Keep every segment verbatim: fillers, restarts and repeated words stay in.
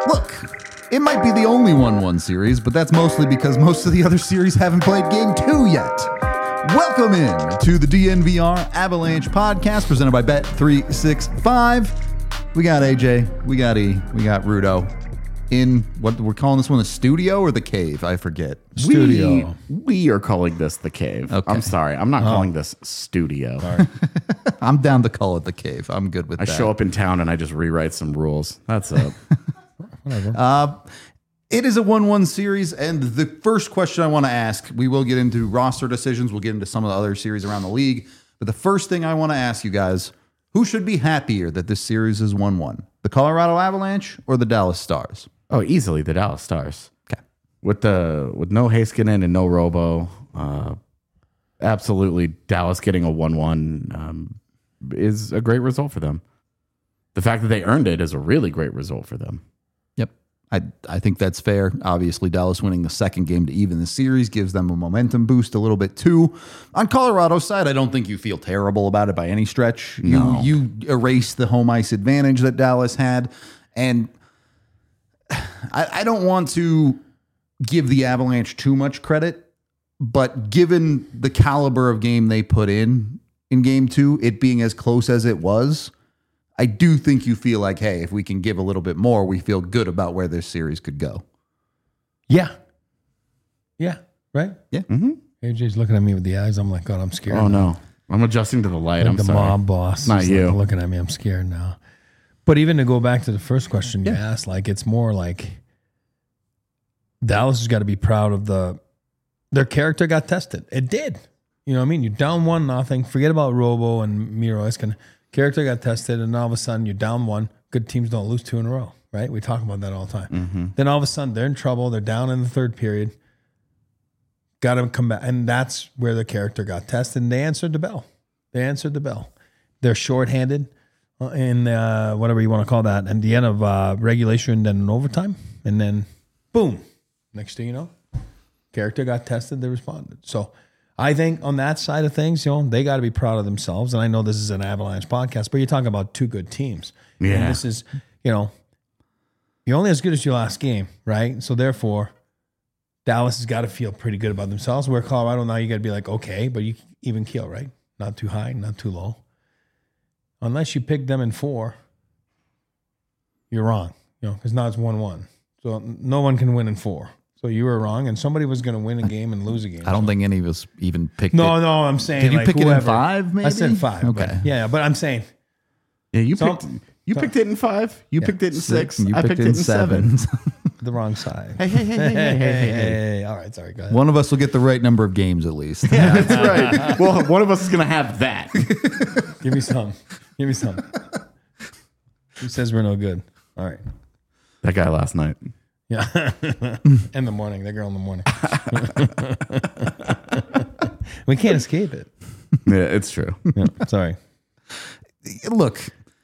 Look, it might be the only one one series, but that's mostly because most of the other series haven't played game two yet. Welcome in to the D N V R Avalanche podcast presented by Bet three sixty-five. We got A J, we got E, we got Rudo in what we're calling this one, the studio or the cave? I forget. Studio. We, we are calling this the cave. Okay. I'm sorry. I'm not oh. calling this studio. I'm down to call it the cave. I'm good with I that. show up in town and I just rewrite some rules. That's it. Whatever. Uh, it is a one one series, and the first question I want to ask, we will get into roster decisions. We'll get into some of the other series around the league. But the first thing I want to ask you guys, who should be happier that this series is one one? The Colorado Avalanche or the Dallas Stars? Oh, easily the Dallas Stars. Okay. With the with no Heiskanen and no Robo, uh, absolutely Dallas getting a one one um, is a great result for them. The fact that they earned it is a really great result for them. Yep. I I think that's fair. Obviously, Dallas winning the second game to even the series gives them a momentum boost a little bit too. On Colorado's side, I don't think you feel terrible about it by any stretch. You, No. you erase the home ice advantage that Dallas had. And I, I don't want to give the Avalanche too much credit, but given the caliber of game they put in in game two, it being as close as it was, I do think you feel like, hey, if we can give a little bit more, we feel good about where this series could go. Yeah. Yeah. Right? Yeah. Mm-hmm. A J's looking at me with the eyes. I'm like, God, I'm scared. Oh, no. I'm adjusting to the light. Like I'm the sorry. mob boss. Not is you. Like looking at me. I'm scared now. But even to go back to the first question you Yeah. asked, like it's more like Dallas has got to be proud of the their character got tested. It did. You know what I mean? You're down one nothing. Forget about Robo and Miro Heiskanen. Character got tested, and all of a sudden you're down one. Good teams don't lose two in a row, right? We talk about that all the time. Mm-hmm. Then all of a sudden they're in trouble. They're down in the third period. Got to come back, and that's where the character got tested. And they answered the bell. They answered the bell. They're shorthanded in uh, whatever you want to call that, and the end of uh, regulation, then an overtime, and then boom. Next thing you know, character got tested. They responded. So I think on that side of things, you know, they got to be proud of themselves. And I know this is an Avalanche podcast, but you're talking about two good teams. Yeah. And this is, you know, you're only as good as your last game, right? So therefore, Dallas has got to feel pretty good about themselves. Where Colorado now, you got to be like, okay, but you even keel, right? Not too high, not too low. Unless you pick them in four, you're wrong, you know, because now it's one one. So no one can win in four. So you were wrong, and somebody was going to win a game and lose a game. I don't so. think any of us even picked No, it. no, I'm saying. Did you like pick it in whoever. five, maybe? I said five. Okay. But, yeah, but I'm saying. Yeah, you Some- picked you picked it in five. You Yeah. picked it in six. and you I picked, it in seven. The wrong side. Hey, hey, hey, hey, hey, hey, hey, hey. All right, sorry, go ahead. One of us will get the right number of games at least. Yeah, that's right. Well, one of us is going to have that. Give me some. Give me some. Who says we're no good? All right. That guy last night. Yeah. In the morning. That girl in the morning. We can't escape it. Yeah, it's true. Yeah, sorry. Look,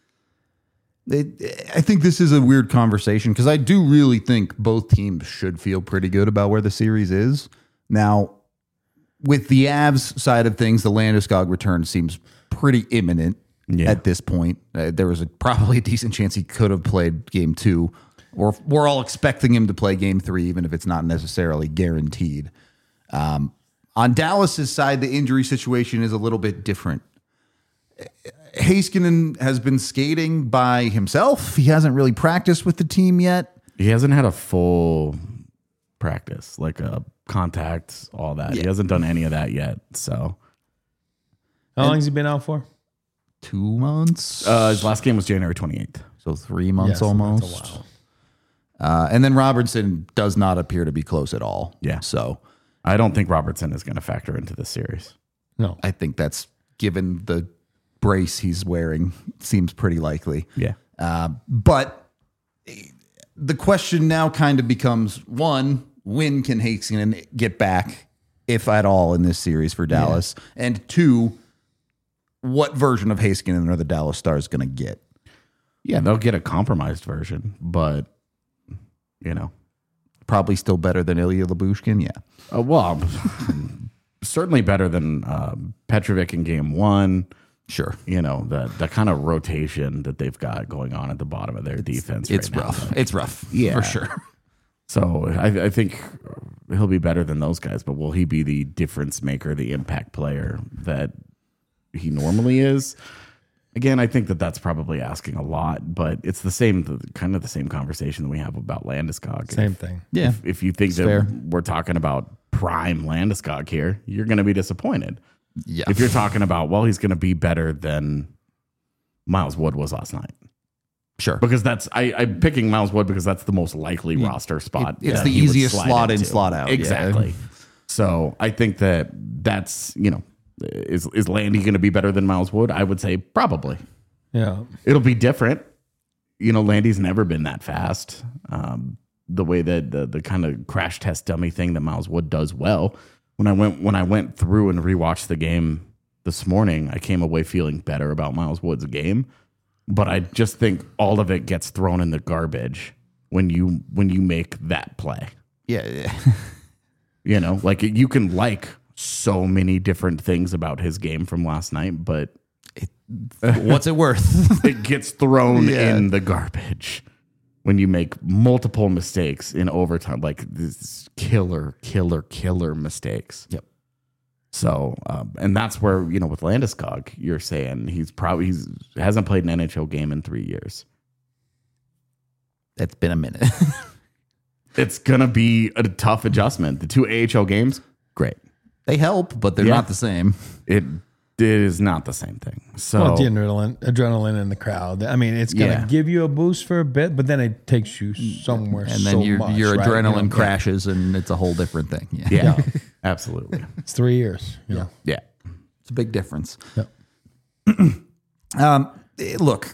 it, I think this is a weird conversation because I do really think both teams should feel pretty good about where the series is. Now, with the Avs side of things, the Landeskog return seems pretty imminent Yeah. at this point. Uh, there was a, probably a decent chance he could have played game two, or we're all expecting him to play game three, even if it's not necessarily guaranteed. Um, on Dallas's side, the injury situation is a little bit different. Heiskanen has been skating by himself. He hasn't really practiced with the team yet. He hasn't had a full practice, like a contact, all that. Yeah. He hasn't done any of that yet. So How long has he been out for? Two months. uh, his last game was January twenty-eighth. so three months Yes, that's a almost. while. Uh, and then Robertson does not appear to be close at all. Yeah. So I don't think Robertson is going to factor into this series. No. I think that's, given the brace he's wearing, seems pretty likely. Yeah. Uh, but the question now kind of becomes, one, when can Heiskanen get back, if at all, in this series for Dallas? Yeah. And two, what version of Heiskanen are the Dallas Stars going to get? Yeah, they'll get a compromised version, but, you know. Probably still better than Ilya Lyubushkin, yeah. Uh, well, certainly better than uh, Petrovic in game one. Sure. You know, the the kind of rotation that they've got going on at the bottom of their defense. It's right rough. Now. It's rough. Yeah. For sure. So I, I think he'll be better than those guys, but will he be the difference maker, the impact player that he normally is? Again, I think that that's probably asking a lot, but it's the same, kind of the same conversation that we have about Landeskog. Same if, thing. Yeah. If, if you think that fair. we're talking about prime Landeskog here, you're going to be disappointed. Yeah. If you're talking about, well, he's going to be better than Miles Wood was last night. Sure. Because that's I, I'm picking Miles Wood because that's the most likely roster spot. It- it's that the he would easiest slot in, into. slot out. Yeah. Exactly. So I think that that's, you know, is is Landy going to be better than Miles Wood? I would say probably. Yeah. It'll be different. You know, Landy's never been that fast. Um, the way that the the kind of crash test dummy thing that Miles Wood does well. When I went when I went through and rewatched the game this morning, I came away feeling better about Miles Wood's game. But I just think all of it gets thrown in the garbage when you when you make that play. Yeah. yeah. You know, like you can like so many different things about his game from last night, but What's it worth? it gets thrown Yeah. in the garbage when you make multiple mistakes in overtime, like this killer, killer, killer mistakes. Yep. So, um, and that's where, you know, with Landeskog, you're saying he's probably he's hasn't played an N H L game in three years. It's been a minute. It's gonna be a tough adjustment. The two A H L games, great. They help, but they're Yeah. not the same. It, it is not the same thing. So Well, the adrenaline, adrenaline in the crowd. I mean, it's going to Yeah. give you a boost for a bit, but then it takes you somewhere And then so your much, your right? adrenaline You know, crashes and it's a whole different thing. Yeah. yeah, Yeah. absolutely. It's three years. You know? Yeah. It's a big difference. Yeah. Um, eh, look,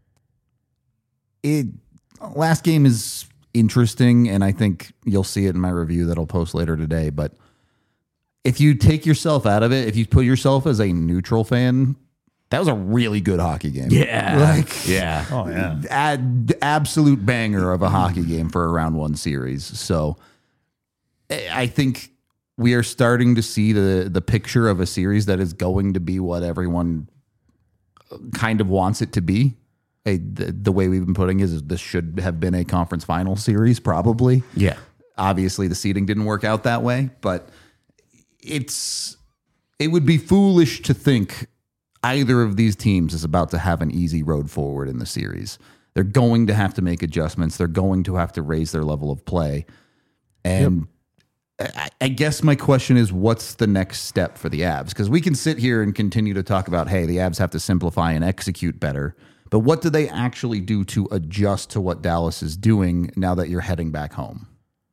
it last game is interesting, and I think you'll see it in my review that I'll post later today. But if you take yourself out of it, if you put yourself as a neutral fan, that was a really good hockey game. Yeah. Like, yeah. Oh, yeah. ad, absolute banger of a hockey game for a round one series. So eh, I think we are starting to see the the picture of a series that is going to be what everyone kind of wants it to be. A, the, the way we've been putting it is this should have been a conference final series, probably. Yeah. Obviously, the seeding didn't work out that way, but it's it would be foolish to think either of these teams is about to have an easy road forward in the series. They're going to have to make adjustments. They're going to have to raise their level of play. And I, I guess my question is, what's the next step for the Avs? Because we can sit here and continue to talk about, hey, the Avs have to simplify and execute better. But what do they actually do to adjust to what Dallas is doing now that you're heading back home?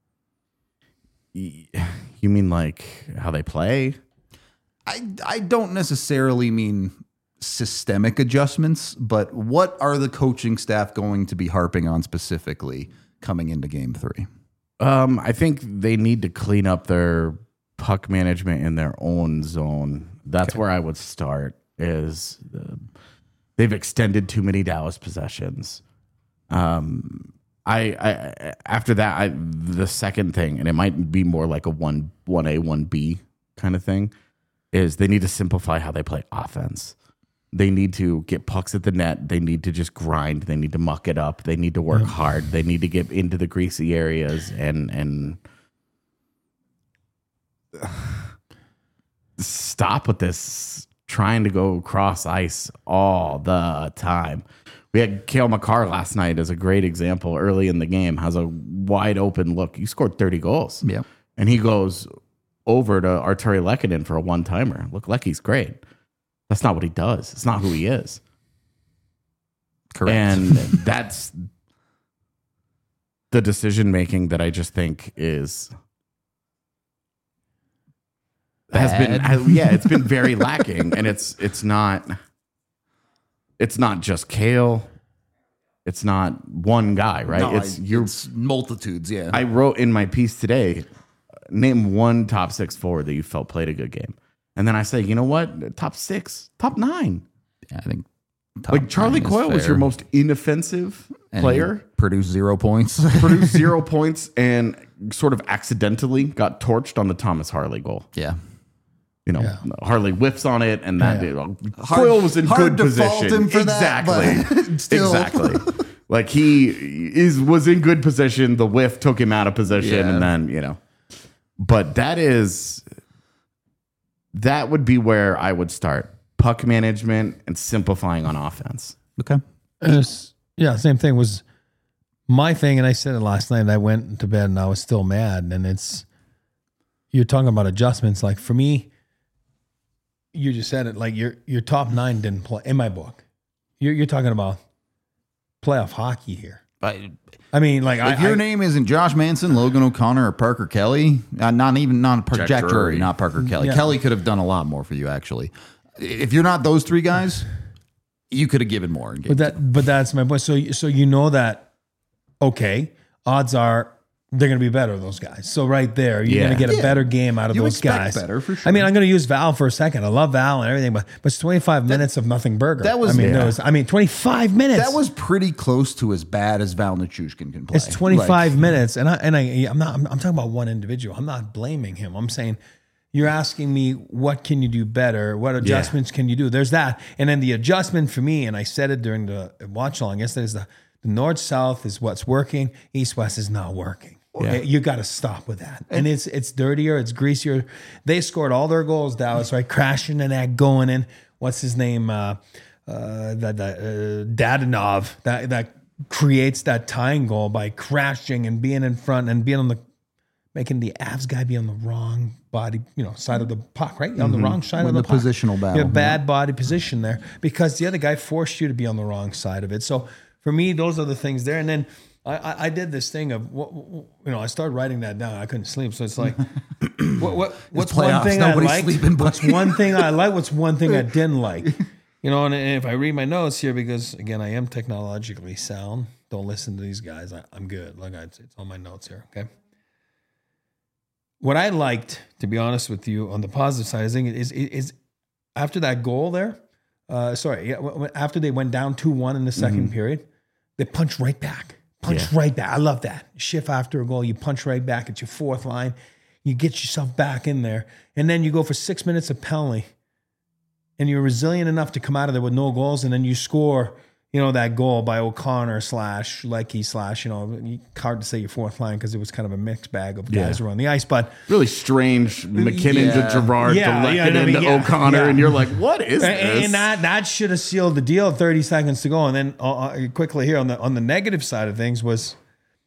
You mean like how they play? I, I don't necessarily mean systemic adjustments, but what are the coaching staff going to be harping on specifically coming into game three? Um, I think they need to clean up their puck management in their own zone. That's Okay. where I would start. Is uh, they've extended too many Dallas possessions. Um, I, I after that, I, the second thing, and it might be more like a one one A one B kind of thing, is they need to simplify how they play offense. They need to get pucks at the net. They need to just grind. They need to muck it up. They need to work hard. They need to get into the greasy areas and and stop with this trying to go cross ice all the time. We had Cale Makar last night as a great example early in the game. Has a wide open look. You scored thirty goals. Yeah. And he goes over to Arturi Lehkonen for a one-timer. Look, Lecky's great. That's not what he does. It's not who he is. Correct. And that's the decision-making that I just think is... has been Bad. yeah, it's been very lacking, and it's it's not it's not just Cale, it's not one guy, right? No, it's I- you're. it's multitudes, yeah. I wrote in my piece today, name one top six forward that you felt played a good game, and then I say, you know what, top six, top nine, I think top like Charlie nine is Coyle was fair. your most inoffensive And player. he produced zero points. Produced zero points and sort of accidentally got torched on the Thomas Harley goal. Yeah. you know, Yeah. Harley whiffs on it, and that Yeah. you know, Hard- Coyle was in hard good to fault position. him for that, exactly, but still. exactly. Like he is was in good position. The whiff took him out of position, Yeah. and then you know. But that is that would be where I would start puck management and simplifying on offense. Okay. And it's- yeah, same thing was my thing, and I said it last night. And I went to bed and I was still mad. And it's you're talking about adjustments. Like for me, you just said it. Like your your top nine didn't play in my book. You're you're talking about playoff hockey here. But I mean, like if I, your I, name isn't Josh Manson, Logan O'Connor, or Parker Kelly, uh, not even not Parker, Jack Jack, Drury, Drury. not Parker Kelly. Yeah. Kelly could have done a lot more for you, actually. If you're not those three guys, you could have given more. In game But that, but that's my point. So, so you know that, okay, odds are they're going to be better, those guys. So right there, you're Yeah. going to get a Yeah. better game out of You those expect guys. better, for sure. I mean, I'm going to use Val for a second. I love Val and everything, but but it's twenty-five minutes of nothing burger. that was- I mean, yeah. there was, I mean, twenty-five minutes. that was pretty close to as bad as Val Nichushkin can play. It's twenty-five Like, minutes, and I and I I'm not. I'm, I'm talking about one individual. I'm not blaming him. I'm saying you're asking me what can you do better? What adjustments can you do? There's that, and then the adjustment for me, and I said it during the watch along yesterday, is the the north south is what's working. East west is not working. Okay? You got to stop with that, and it's it's dirtier, it's greasier. They scored all their goals, Dallas, right? Crashing and that going in. What's his name? Uh, uh, that that uh, Dadonov that that creates that tying goal by crashing and being in front and being on the making the Avs guy be on the wrong body, you know, side of the puck, right? On the wrong side When of the, the puck. positional battle, You have bad body position there because the other guy forced you to be on the wrong side of it. So for me, those are the things there. And then I, I, I did this thing of, what, you know, I started writing that down. I couldn't sleep. So it's like, what, what, what's one playoffs. thing I Nobody's liked? sleeping, What's buddy. one thing I like? What's one thing I didn't like? You know, and if I read my notes here, because again, I am technologically sound. Don't listen to these guys. I, I'm good. Like I, it's on my notes here. Okay. What I liked, to be honest with you, on the positive side, is, is, is after that goal there, uh, sorry, yeah, w- w- after they went down two one in the second period, they punched right back. Punch Yeah. right back. I love that. Shift after a goal, you punch right back at your fourth line. You get yourself back in there. And then you go for six minutes of penalty. And you're resilient enough to come out of there with no goals. And then you score, you know, that goal by O'Connor slash Leckie slash, you know, hard to say your fourth line because it was kind of a mixed bag of guys Yeah. who were on the ice. But Really strange McKinnon Yeah. to Gerard Yeah, to yeah, I Lehkonen mean, to yeah, O'Connor, yeah. and you're like, what is And, this? and that that should have sealed the deal. Thirty seconds to go, and then uh, uh, quickly here on the on the negative side of things was,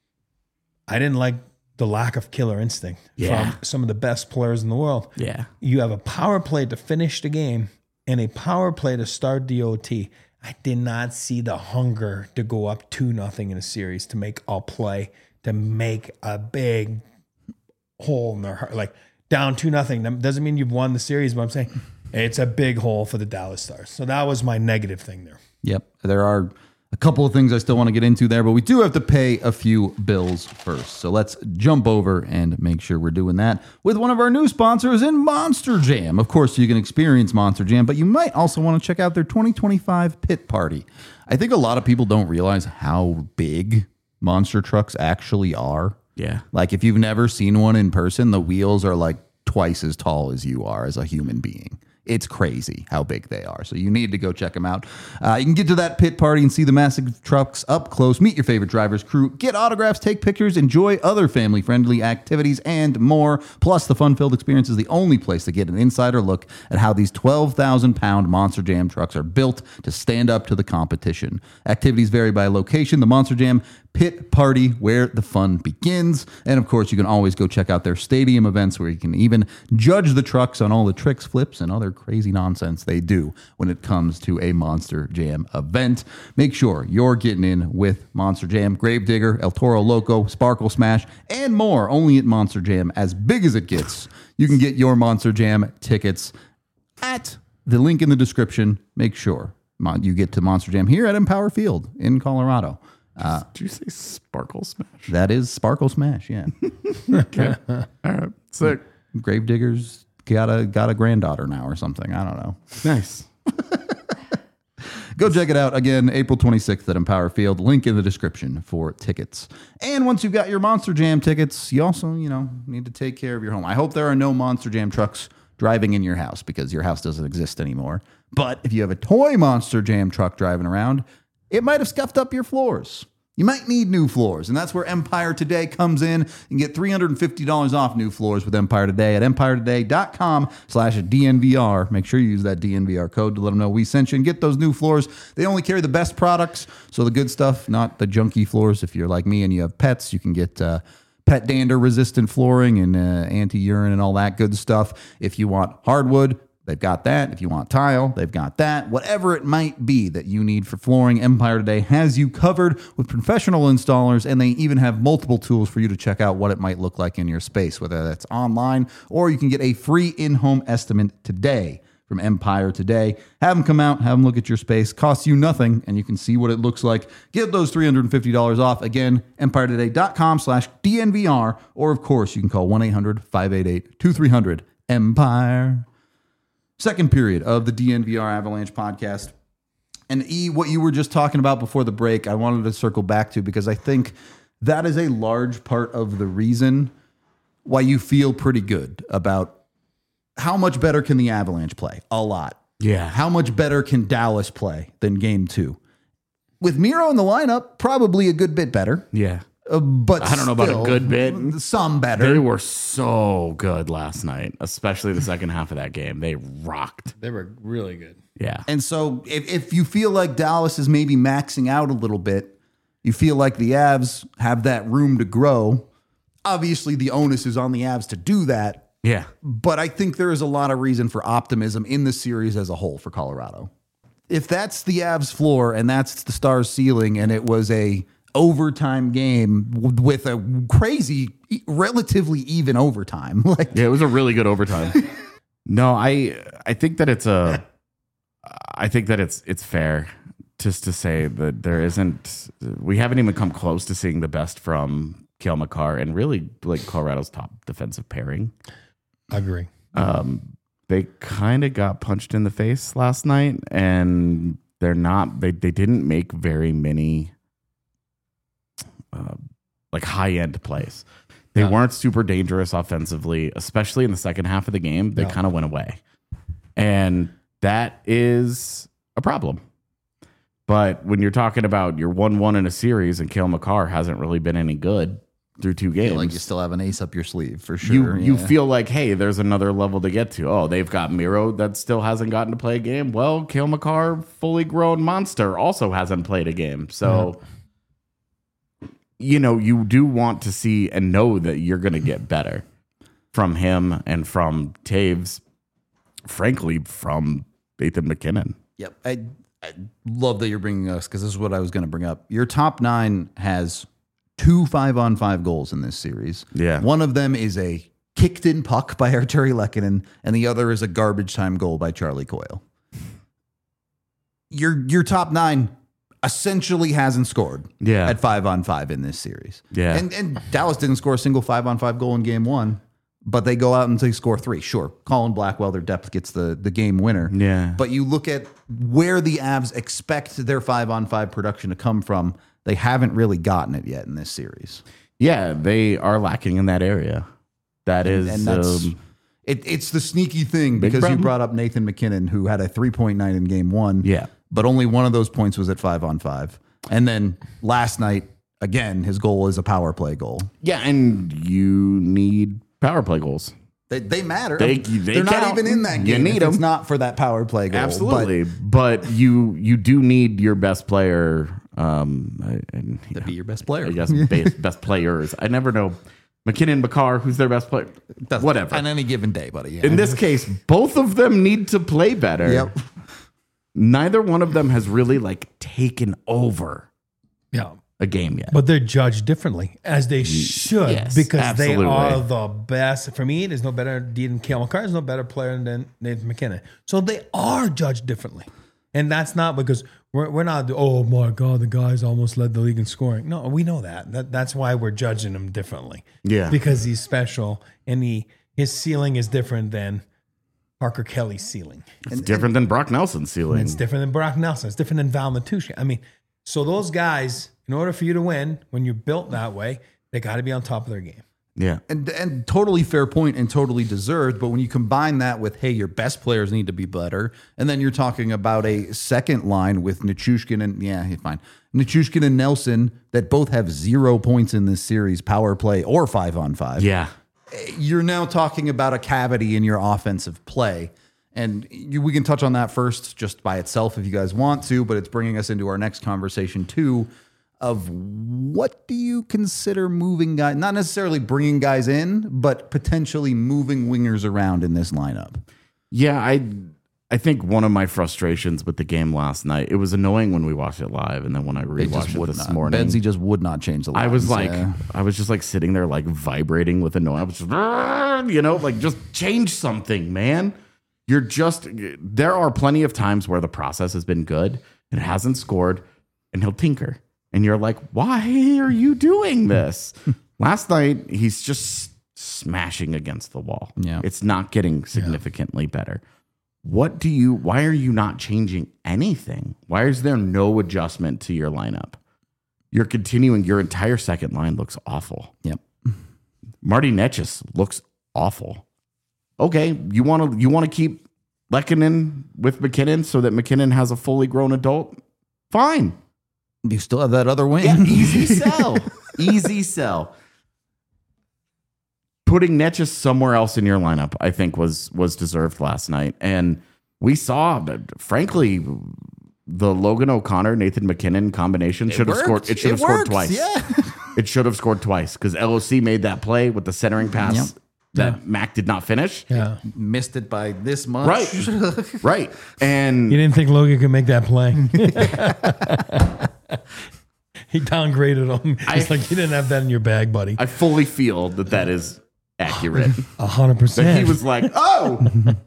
I didn't like the lack of killer instinct Yeah. from some of the best players in the world. yeah. You have a power play to finish the game and a power play to start the O T. I did not see the hunger to go up two nothing in a series to make a play to make a big hole in their heart, like down two nothing. That doesn't mean you've won the series, but I'm saying it's a big hole for the Dallas Stars. So that was my negative thing there. Yep. There are a couple of things I still want to get into there, but we do have to pay a few bills first. So let's jump over and make sure we're doing that with one of our new sponsors in Monster Jam. Of course, you can experience Monster Jam, but you might also want to check out their twenty twenty-five Pit Party. I think a lot of people don't realize how big monster trucks actually are. Yeah. Like if you've never seen one in person, the wheels are like twice as tall as you are as a human being. It's crazy how big they are. So you need to go check them out. Uh, you can get to that pit party and see the massive trucks up close, meet your favorite drivers, crew, get autographs, take pictures, enjoy other family-friendly activities, and more. Plus, the fun-filled experience is the only place to get an insider look at how these twelve thousand pound Monster Jam trucks are built to stand up to the competition. Activities vary by location. The Monster Jam Pit Party, where the fun begins. And of course, you can always go check out their stadium events where you can even judge the trucks on all the tricks, flips, and other crazy nonsense they do when it comes to a Monster Jam event. Make sure you're getting in with Monster Jam, Gravedigger, El Toro Loco, Sparkle Smash, and more only at Monster Jam. As big as it gets, you can get your Monster Jam tickets at the link in the description. Make sure you get to Monster Jam here at Empower Field in Colorado. Uh, Did you say Sparkle Smash? That is Sparkle Smash, yeah. Okay. All right. Sick. Gravedigger's got a got a granddaughter now or something. I don't know. Nice. Go check it out again, April twenty-sixth at Empower Field. Link in the description for tickets. And once you've got your Monster Jam tickets, you also, you know, need to take care of your home. I hope there are no Monster Jam trucks driving in your house because your house doesn't exist anymore. But if you have a toy Monster Jam truck driving around, it might have scuffed up your floors. You might need new floors, and that's where Empire Today comes in. You can get three hundred fifty dollars off new floors with Empire Today at empire today dot com slash D N V R. Make sure you use that D N V R code to let them know we sent you and get those new floors. They only carry the best products, so the good stuff, not the junky floors. If you're like me and you have pets, you can get uh, pet dander resistant flooring and uh, anti-urine and all that good stuff. If you want hardwood, they've got that. If you want tile, they've got that. Whatever it might be that you need for flooring, Empire Today has you covered with professional installers, and they even have multiple tools for you to check out what it might look like in your space, whether that's online or you can get a free in-home estimate today from Empire Today. Have them come out, have them look at your space. Costs you nothing, and you can see what it looks like. Get those three hundred fifty dollars off. Again, empire today dot com slash D N V R, or of course, you can call one eight hundred five eight eight two three zero zero Empire. Second period of the D N V R Avalanche podcast. And E, what you were just talking about before the break, I wanted to circle back to because I think that is a large part of the reason why you feel pretty good about how much better can the Avalanche play? A lot. Yeah. How much better can Dallas play than game two? With Miro in the lineup, probably a good bit better. Yeah. Uh, but I don't know about a still, good bit. Some better. They were so good last night, especially the second half of that game. They rocked. They were really good. Yeah. And so if, if you feel like Dallas is maybe maxing out a little bit, you feel like the Avs have that room to grow. Obviously, the onus is on the Avs to do that. Yeah. But I think there is a lot of reason for optimism in the series as a whole for Colorado. If that's the Avs floor and that's the Stars ceiling, and it was a overtime game with a crazy, relatively even overtime. Like, yeah, it was a really good overtime. No, I I think that it's a I think that it's it's fair just to say that there isn't we haven't even come close to seeing the best from Cale Makar and really like Colorado's top defensive pairing. I agree. Um, they kind of got punched in the face last night, and they're not. They they didn't make very many uh, like high end plays. They Yeah. weren't super dangerous offensively, especially in the second half of the game. They No. kind of went away, and that is a problem. But when you're talking about you're one one in a series and Cale Makar hasn't really been any good through two games, like you still have an ace up your sleeve for sure. you you yeah. feel like, hey, there's another level to get to. Oh, they've got Miro that still hasn't gotten to play a game. Well, Cale Makar, fully grown monster, also hasn't played a game. So, you know, you do want to see and know that you're going to get better from him and from Taves, frankly, from Nathan MacKinnon. Yep. I, I love that you're bringing us because this is what I was going to bring up. Your top nine has two five on five goals in this series. Yeah. One of them is a kicked in puck by Arturi Lehkonen, and the other is a garbage time goal by Charlie Coyle. Your your top nine essentially hasn't scored Yeah. at five on five in this series. Yeah. And and Dallas didn't score a single five on five goal in game one, but they go out and they score three. Sure. Colin Blackwell, their depth gets the, the game winner. Yeah. But you look at where the Avs expect their five on five production to come from, they haven't really gotten it yet in this series. Yeah, they are lacking in that area. That is, And that's um, it, it's the sneaky thing Big because you problem. brought up Nathan MacKinnon, who had a three point nine in game one. Yeah. But only one of those points was at five on five. And then last night, again, his goal is a power play goal. yeah, and you need power play goals. They, they matter. They- they They're not count. even in that You game. need if it's them. not for that power play goal. Absolutely, but, you you do need your best player, um, and But to be your best player. I guess best, best players. I never know MacKinnon, Makar, who's their best player. Whatever. On any given day, buddy. Yeah. In this case, both of them need to play better. Yep. Neither one of them has really like taken over Yeah. a game yet. But they're judged differently, as they should, yes, because absolutely. they are the best. For me, there's no better than Cale Makar. There's no better player than Nathan MacKinnon. So they are judged differently. And that's not because we're, we're not, oh my God, the guy's almost led the league in scoring. No, we know that. that. That's why we're judging him differently. Yeah. Because he's special and he his ceiling is different than Parker Kelly's ceiling. It's different than Brock Nelson's ceiling. It's different than Brock Nelson. It's different than Val Natucci. I mean, so those guys, in order for you to win, when you're built that way, they got to be on top of their game. Yeah. And and totally fair point and totally deserved. But when you combine that with, hey, your best players need to be better, and then you're talking about a second line with Nichushkin and yeah, fine, Nichushkin and Nelson that both have zero points in this series, power play or five on five. Yeah. You're now talking about a cavity in your offensive play. And you, we can touch on that first just by itself if you guys want to, but it's bringing us into our next conversation too of what do you consider moving guys, not necessarily bringing guys in, but potentially moving wingers around in this lineup. Yeah, I I think one of my frustrations with the game last night, it was annoying when we watched it live, and then when I rewatched it, would this not. morning, Bedsy just would not change the lines. I was like, yeah. I was just like sitting there like vibrating with annoyance. I was just, you know, like just change something, man. You're just, there are plenty of times where the process has been good and it hasn't scored, and he'll tinker. And you're like, why are you doing this? Last night, he's just smashing against the wall. Yeah. It's not getting significantly yeah. better. What do you, why are you not changing anything? Why is there no adjustment to your lineup? You're continuing, your entire second line looks awful. Yep. Marty Netjes looks awful. Okay, you want to you want to keep Lehkonen with McKinnon so that McKinnon has a fully grown adult? Fine. You still have that other wing. Yeah, easy sell. Easy sell. Putting Netjes somewhere else in your lineup, I think, was was deserved last night. And we saw, frankly, the Logan O'Connor, Nathan McKinnon combination should have scored. It should have scored twice. Yeah. It should have scored twice because L O C made that play with the centering pass Yep. that Yeah. Mac did not finish. Yeah. Missed it by this much. Right. Right. And You didn't think Logan could make that play. He downgraded him. He's I- like, you didn't have that in your bag, buddy. I fully feel that that is accurate. A hundred That percent. he was like, oh,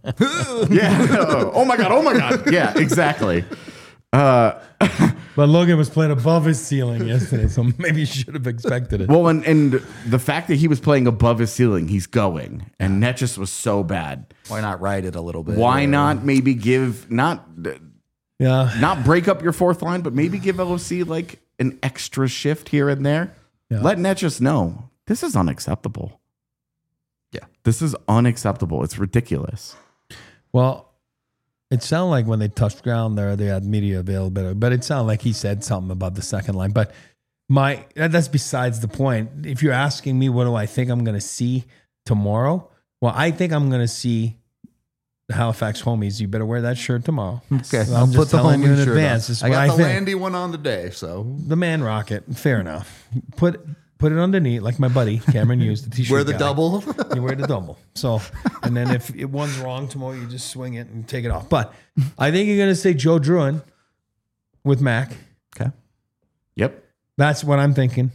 yeah. Oh my God. Oh my God. Yeah, exactly. Uh, But Logan was playing above his ceiling yesterday, so maybe you should have expected it. well, and, and the fact that he was playing above his ceiling, he's going. And that just was so bad. Why not ride it a little bit? Why Or- not maybe give, not Yeah. not break up your fourth line, but maybe give L O C like an extra shift here and there? Yeah. Let Netjes know this is unacceptable. Yeah. This is unacceptable. It's ridiculous. Well, it sounded like when they touched ground there, they had media availability, but it sounded like he said something about the second line. But my that's besides the point. If you're asking me, what do I think I'm going to see tomorrow? Well, I think I'm going to see the Halifax homies. You better wear that shirt tomorrow. Okay, So I'll I'm put just the telling you in homie shirt advance. on. This is I what got I the think. Landy one on today, so The man rocket. Fair enough. Put put it underneath, like my buddy Cameron used the t-shirt. wear the guy. double. You wear the double. So, and then if it one's wrong tomorrow, you just swing it and take it off. But I think you're going to say Joe Druin with Mac. Okay. Yep. That's what I'm thinking.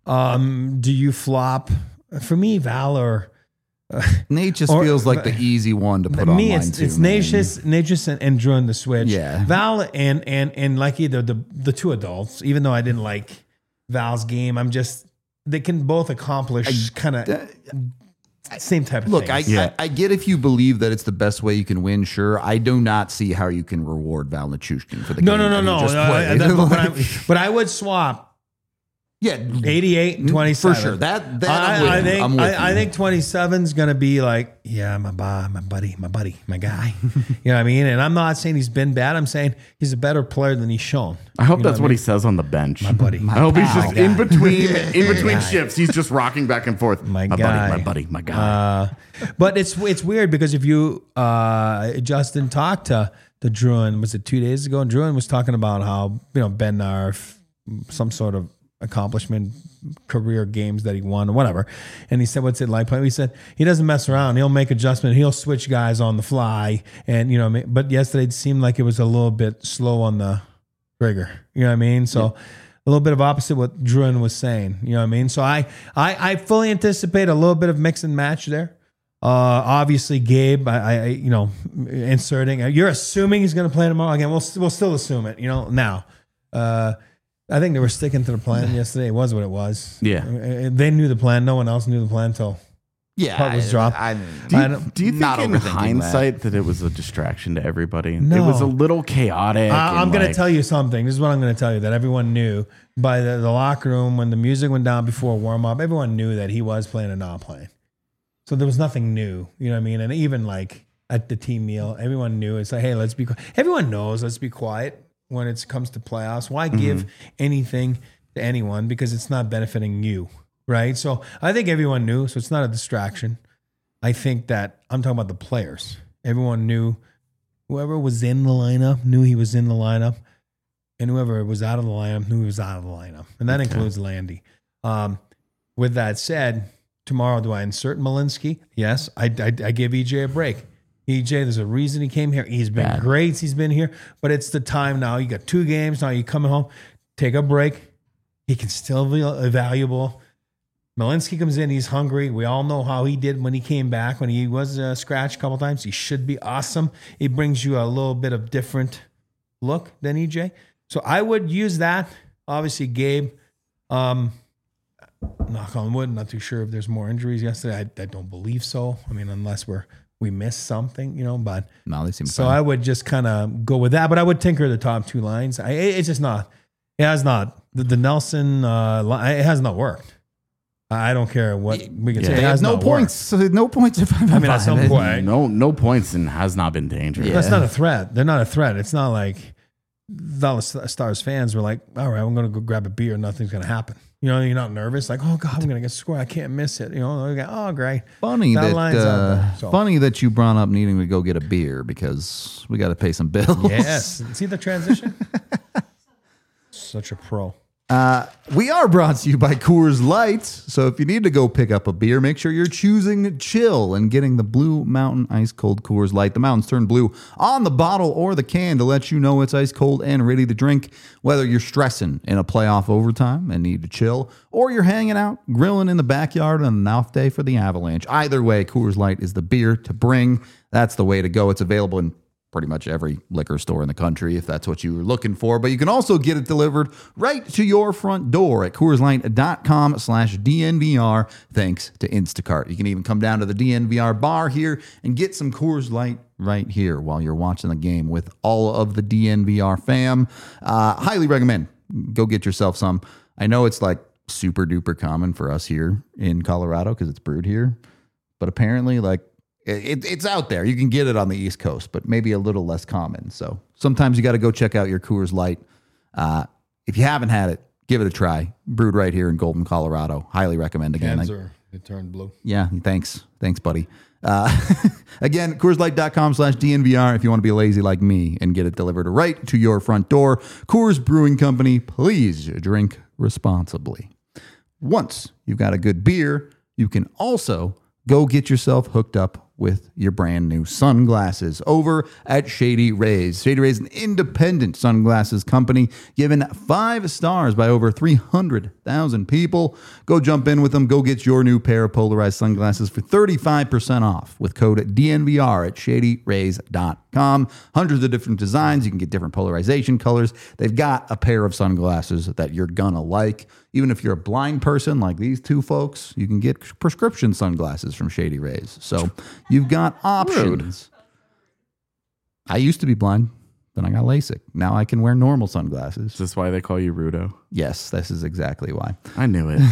Um, do you flop? For me, Valor. Nate just Or- feels like the easy one to put me, on it's mine too. it's man. Natchez, Natchez and, and Druin the switch. Yeah. Val and and and like either the the two adults. Even though I didn't like Val's game, I'm just they can both accomplish kind of same type of Look, I, things. Yeah. I I get if you believe that it's the best way you can win. Sure, I do not see how you can reward Val Nichushkin for the no, game no, no, that he no, just no, I- played. that- but, I, Like, but I would swap yeah, eighty-eight and twenty-seven. for sure. That that I'm with I, I you. think I'm with I, I you. think twenty-seven is going to be like, yeah, my bu- my buddy, my buddy, my guy. You know what I mean? And I'm not saying he's been bad. I'm saying he's a better player than he's shown. I hope You know that's what he says on the bench. My buddy. I hope he's pal. just in between in between guy. shifts. He's just rocking back and forth. My buddy, guy. my buddy, my guy. Uh, but it's it's weird because if you uh, Justin talked to to Druin, was it two days ago? And Druin was talking about how you know Ben Narf, some sort of accomplishment, career games that he won or whatever. And he said, what's it like playing? He said, he doesn't mess around. He'll make adjustment. He'll switch guys on the fly. And, you know, but yesterday it seemed like it was a little bit slow on the trigger. You know what I mean? So yeah. A little bit of opposite what Druin was saying. You know what I mean? So I, I, I fully anticipate a little bit of mix and match there. Uh, obviously Gabe, I, I, you know, inserting, you're assuming he's going to play tomorrow. Again, we'll, we'll still assume it, you know, now, uh, I think they were sticking to the plan yesterday. It was what it was. Yeah. Uh, They knew the plan. No one else knew the plan until Yeah, puck was dropped. I, I, Do I you, don't- do you think not in overthinking hindsight that. that it was a distraction to everybody? No. It was a little chaotic. I, I'm and going to like- tell you something. This is what I'm going to tell you that everyone knew by the, the locker room when the music went down before warm up. Everyone knew that he was playing and not playing. So there was nothing new. You know what I mean? And even like at the team meal, everyone knew it's like, hey, let's be quiet. Everyone knows let's be quiet when it comes to playoffs. Why give anything to anyone because it's not benefiting you, right? So I think everyone knew. So it's not a distraction. I think that I'm talking about the players. Everyone knew. Whoever was in the lineup knew he was in the lineup, and whoever was out of the lineup knew he was out of the lineup, and that okay. includes Landy. Um, with that said, tomorrow do I insert Malinsky? Yes, I, I, I give E J a break. E J, there's a reason he came here. He's been Bad. great. He's been here, but it's the time now. You got two games now. You coming home, take a break. He can still be valuable. Malinsky comes in. He's hungry. We all know how he did when he came back. When he was uh, scratched a couple times, he should be awesome. He brings you a little bit of different look than E J. So I would use that. Obviously, Gabe. Um, knock on wood. Not too sure if there's more injuries yesterday. I, I don't believe so. I mean, unless we're we missed something, you know. But no, they seem so fine. I would just kind of go with that. But I would tinker the top two lines. I, it's just not. It has not. The, the Nelson. Uh, it has not worked. I don't care what we can Yeah. say. They It has have no not points. So no points. If I'm I mean, at some point, No, no points and has not been dangerous. Yeah. that's not a threat. They're not a threat. It's not like Dallas Stars fans were like, all right, I'm going to go grab a beer. Nothing's going to happen. You know, you're not nervous. Like, oh God, I'm going to get scored. I can't miss it. You know, go, oh great. Funny That that, line's out uh, there, so. funny that you brought up needing to go get a beer because we got to pay some bills. Yes. See the transition? Such a pro. Uh, we are brought to you by Coors Light. So if you need to go pick up a beer, make sure you're choosing chill and getting the Blue Mountain Ice Cold Coors Light. The mountains turn blue on the bottle or the can to let you know it's ice cold and ready to drink. Whether you're stressing in a playoff overtime and need to chill, or you're hanging out, grilling in the backyard on an off day for the Avalanche. Either way, Coors Light is the beer to bring. That's the way to go. It's available in pretty much every liquor store in the country if that's what you were looking for. But you can also get it delivered right to your front door at CoorsLight.com slash DNVR thanks to Instacart. You can even come down to the D N V R bar here and get some Coors Light right here while you're watching the game with all of the D N V R fam. Uh, highly recommend. Go get yourself some. I know it's like super duper common for us here in Colorado because it's brewed here. But apparently like It, it's out there. You can get it on the East Coast, but maybe a little less common. So sometimes you got to go check out your Coors Light. Uh, if you haven't had it, give it a try. Brewed right here in Golden, Colorado. Highly recommend again. Cans are, they turned blue. Yeah, thanks. Thanks, buddy. Uh, again, CoorsLight.com slash DNVR if you want to be lazy like me and get it delivered right to your front door. Coors Brewing Company, please drink responsibly. Once you've got a good beer, you can also go get yourself hooked up with your brand new sunglasses over at Shady Rays. Shady Rays is an independent sunglasses company given five stars by over three hundred thousand people. Go jump in with them. Go get your new pair of polarized sunglasses for thirty-five percent off with code D N V R at shady rays dot com. Hundreds of different designs. You can get different polarization colors. They've got a pair of sunglasses that you're gonna like. Even if you're a blind person like these two folks, you can get prescription sunglasses from Shady Rays. So you've got options. Rude. I used to be blind, then I got LASIK. Now I can wear normal sunglasses. Is this why they call you Rudo? Yes, this is exactly why. I knew it.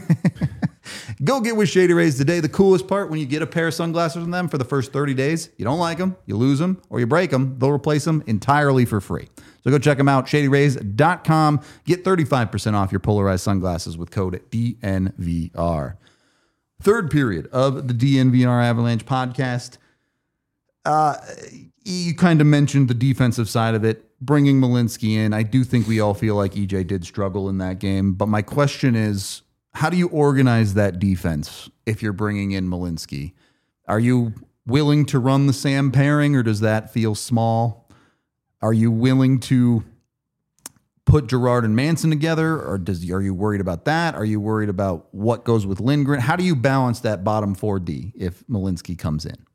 Go get with Shady Rays today. The coolest part, when you get a pair of sunglasses from them for the first thirty days, you don't like them, you lose them, or you break them, they'll replace them entirely for free. So go check them out, shady rays dot com. Get thirty-five percent off your polarized sunglasses with code D N V R. Third period of the D N V R Avalanche podcast. Uh, you kind of mentioned the defensive side of it, bringing Malinsky in. I do think we all feel like E J did struggle in that game. But my question is, how do you organize that defense if you're bringing in Malinsky? Are you willing to run the Sam pairing, or does that feel small? Are you willing to put Girard and Manson together, or does are you worried about that? Are you worried about what goes with Lindgren? How do you balance that bottom four D if Malinsky comes in?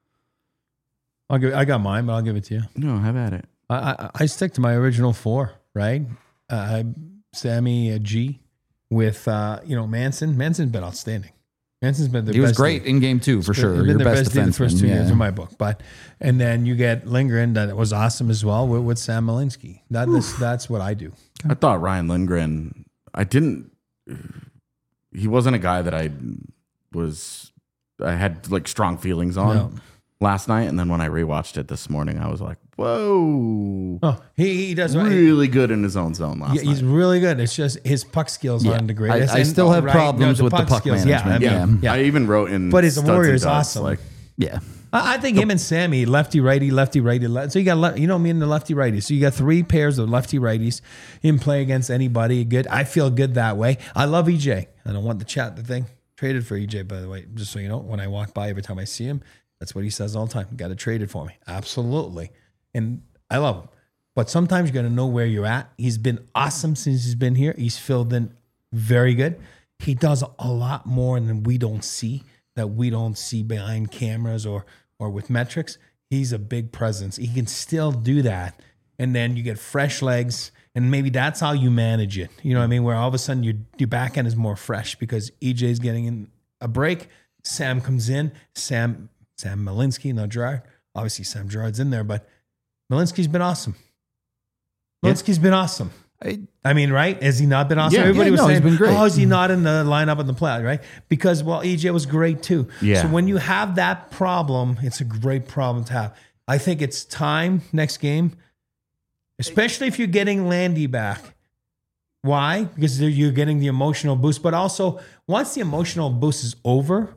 I'll give. I got mine, but I'll give it to you. No, have at it. I I, I stick to my original four, right? Uh, Sammy uh, G with uh, you know Manson. Manson's been outstanding. Jansen's been the He best. was great D. in game two for He's sure. been Your the best best D the first defenseman. two Yeah. games in my book. But and then you get Lindgren that was awesome as well with, with Sam Malinsky. That is that's what I do. I thought Ryan Lindgren, I didn't, he wasn't a guy that I was, I had like strong feelings on No. last night. And then when I rewatched it this morning, I was like, whoa. Oh, he, he does Really good in his own zone last Yeah, he's night. really good. It's just his puck skills Yeah. aren't the greatest. I- I And- still have right, problems with the puck skills. management. Yeah, I mean, Yeah. I even wrote in, But his Studs and Warrior is Duds, awesome. Like, Yeah. I I think him and Sammy, lefty righty, lefty righty. le- So you got le- you know me and the lefty righty. So you got three pairs of lefty righties in play against anybody. Good. I feel good that way. I love E J. I don't want the chat the thing. Traded for E J, by the way, just so you know. When I walk by, every time I see him, that's what he says all the time. Got to trade it for me. Absolutely. And I love him. But sometimes you got to know where you're at. He's been awesome since he's been here. He's filled in very good. He does a lot more than we don't see, that we don't see behind cameras or or with metrics. He's a big presence. He can still do that. And then you get fresh legs, and maybe that's how you manage it. You know what I mean? Where all of a sudden your your back end is more fresh because E J's getting in a break. Sam comes in. Sam Sam Malinsky, not Gerard. Obviously Sam Gerard's in there, but Malinsky's been awesome. Malinsky's been awesome. I, I mean, right? Has he not been awesome? Yeah, Everybody yeah, was no, he's saying, been great. oh, is he not in the lineup in the playoffs, right? Because, well, E J was great too. Yeah. So when you have that problem, it's a great problem to have. I think it's time next game, especially if you're getting Landy back. Why? Because there- you're getting the emotional boost. But also, once the emotional boost is over,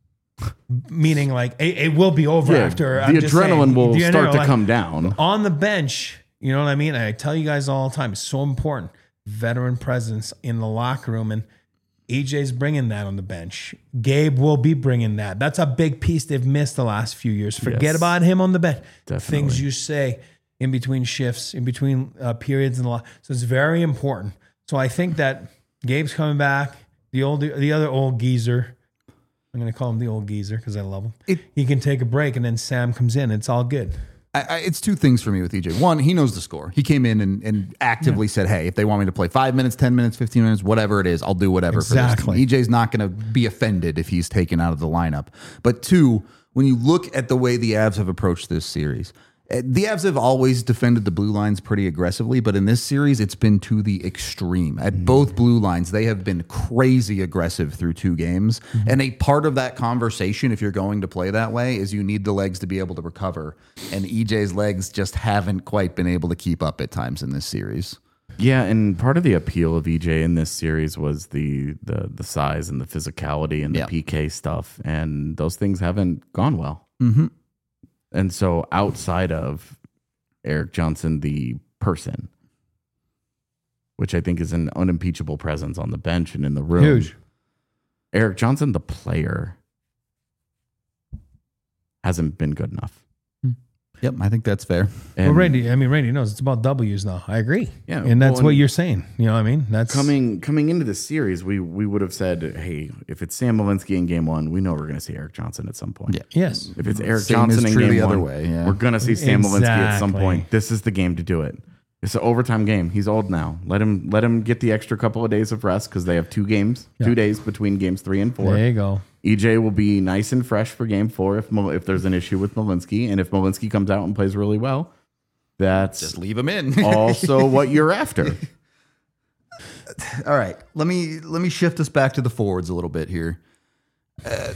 meaning like it, it will be over yeah, after. the I'm just adrenaline saying, will the start to adrenaline- come down. on the bench, you know what I mean? I tell you guys all the time, it's so important. Veteran presence in the locker room, and E J's bringing that on the bench. Gabe will be bringing that. That's a big piece they've missed the last few years. Forget Yes. about him on the bench. Definitely. Things you say in between shifts, in between uh, periods in the locker. So it's very important. So I think that Gabe's coming back. The old, the other old geezer. I'm going to call him the old geezer because I love him. It- he can take a break, and then Sam comes in. It's all good. I, I, it's two things for me with E J. One, he knows the score. He came in and, and actively said, hey, if they want me to play five minutes, ten minutes, fifteen minutes, whatever it is, I'll do whatever for this Exactly. team. E J's not going to be offended if he's taken out of the lineup. But two, when you look at the way the Avs have approached this series, eh, the Avs have always defended the blue lines pretty aggressively, but in this series, it's been to the extreme. At both blue lines, they have been crazy aggressive through two games. And a part of that conversation, if you're going to play that way, is you need the legs to be able to recover. And E J's legs just haven't quite been able to keep up at times in this series. Yeah, and part of the appeal of E J in this series was the the the size and the physicality and the Yeah. P K stuff, and those things haven't gone well. Mm-hmm. And so, outside of Eric Johnson, the person, which I think is an unimpeachable presence on the bench and in the room, Huge. Eric Johnson, the player, hasn't been good enough. Yep, I think that's fair. And Well, Randy, I mean, Randy knows it's about W's now. I agree. Yeah, And that's well, what and- you're saying. You know what I mean? That's coming coming into the series, we we would have said, hey, if it's Sam Malinsky in game one, we know we're going to see Eric Johnson at some point. Yeah. Yes. If it's Eric Same Johnson is in true game the other one, way, yeah. we're going to see Sam Malinsky at some Exactly. point. This is the game to do it. It's an overtime game. He's old now. Let him let him get the extra couple of days of rest because they have two games, Yeah. two days between games three and four. There you go. E J will be nice and fresh for game four if Mal- if there's an issue with Malinsky, and if Malinsky comes out and plays really well, that's Just leave him in. also what you're after. All right, let me let me shift us back to the forwards a little bit here. Uh,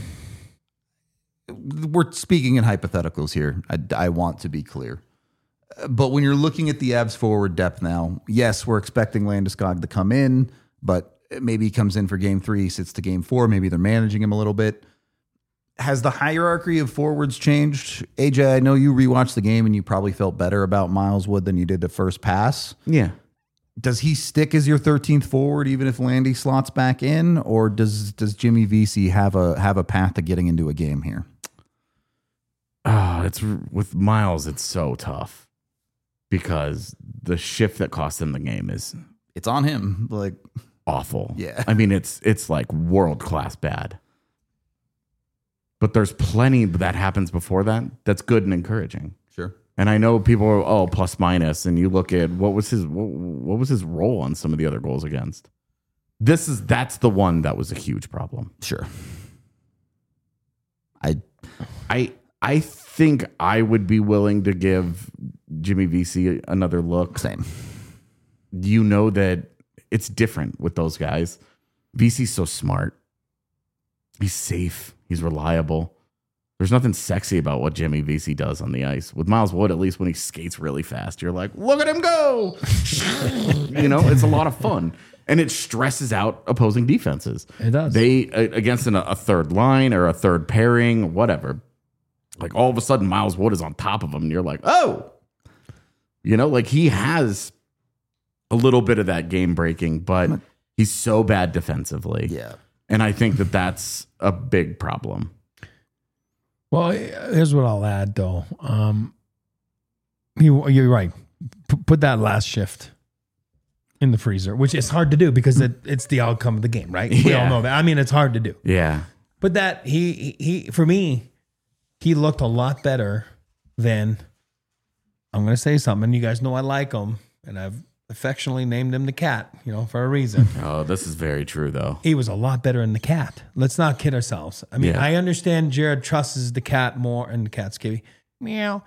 we're speaking in hypotheticals here. I, I want to be clear, Uh, but when you're looking at the Avs forward depth now, yes, we're expecting Landeskog to come in, but maybe he comes in for game three, sits to game four. Maybe they're managing him a little bit. Has the hierarchy of forwards changed? A J, I know you rewatched the game and you probably felt better about Miles Wood than you did the first pass. Yeah. Does he stick as your thirteenth forward even if Landy slots back in, or does does Jimmy Vesey have a have a path to getting into a game here? Oh, it's with Miles, it's so tough because the shift that cost him the game is It's on him. Like, awful. Yeah. I mean, it's it's like world class bad. But there's plenty that happens before that that's good and encouraging. sure. And I know people are oh plus minus, and you look at what was his what, what was his role on some of the other goals against. This is that's the one that was a huge problem. Sure. I I I think I would be willing to give Jimmy Vesey another look. same. You know that it's different with those guys. Vesey's so smart. He's safe. He's reliable. There's nothing sexy about what Jimmy Vesey does on the ice. With Miles Wood, at least when he skates really fast, you're like, look at him go. You know, it's a lot of fun. And it stresses out opposing defenses. It does. They, against an, a third line or a third pairing, whatever, like all of a sudden Miles Wood is on top of him and you're like, oh. You know, like he has a little bit of that game breaking, but he's so bad defensively. Yeah. And I think that that's a big problem. Well, here's what I'll add, though. Um, you, you're right. P- put that last shift in the freezer, which is hard to do because it, it's the outcome of the game, right? We Yeah. all know that. I mean, it's hard to do. Yeah. But that he, he, he for me, he looked a lot better than, I'm going to say something. You guys know I like him, and I've affectionately named him the Cat, you know, for a reason. Oh, this is very true, though. He was a lot better in the Cat. Let's not kid ourselves. I mean, Yeah. I understand Jared trusts the Cat more, and the Cat's Kivy. Meow.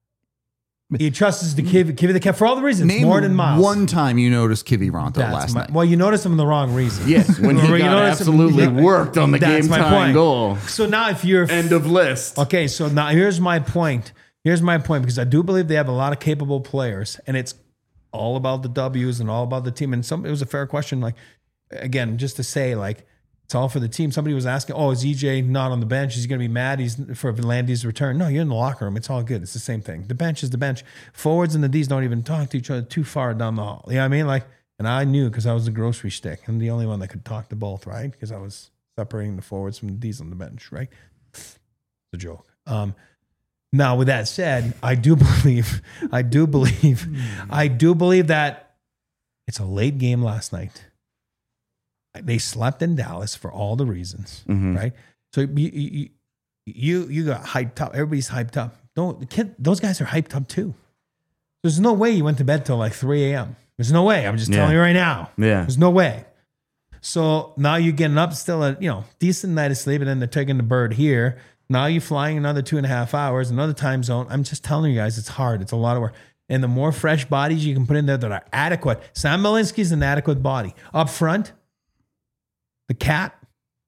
He trusts the Kivy, Kivy the Cat for all the reasons, Name more than Miles. one time you noticed Kivy Ronto That's last my- night. Well, you noticed him in the wrong reason. Yes, when he Or you got notice him- absolutely yeah, worked on the that's game my time point. goal. So now if you're... End of list. Okay, so now here's my point. Here's my point, because I do believe they have a lot of capable players, and it's all about the W's and all about the team. And some it was a fair question, like, again, just to say, like, it's all for the team. Somebody was asking, oh, is E J not on the bench? Is he going to be mad he's for Vanlandy's return? No, you're in the locker room. It's all good. It's the same thing. The bench is the bench. Forwards and the D's don't even talk to each other too far down the hall. You know what I mean? Like, and I knew because I was the grocery stick. I'm the only one that could talk to both, right? Because I was separating the forwards from the D's on the bench, right? It's a joke. Um, now, with that said, I do believe, I do believe, I do believe that it's a late game last night. They slept in Dallas for all the reasons, Mhm. right? So you, you you you got hyped up. Everybody's hyped up. Don't the kid, those guys are hyped up too. There's no way you went to bed till like three a.m. There's no way. I'm just Yeah. telling you right now. Yeah. There's no way. So now you're getting up still at, you know, decent night of sleep, and then they're taking the bird here. Now you're flying another two and a half hours, another time zone. I'm just telling you guys, it's hard. It's a lot of work. And the more fresh bodies you can put in there that are adequate. Sam Malinsky's an adequate body. Up front, the Cat,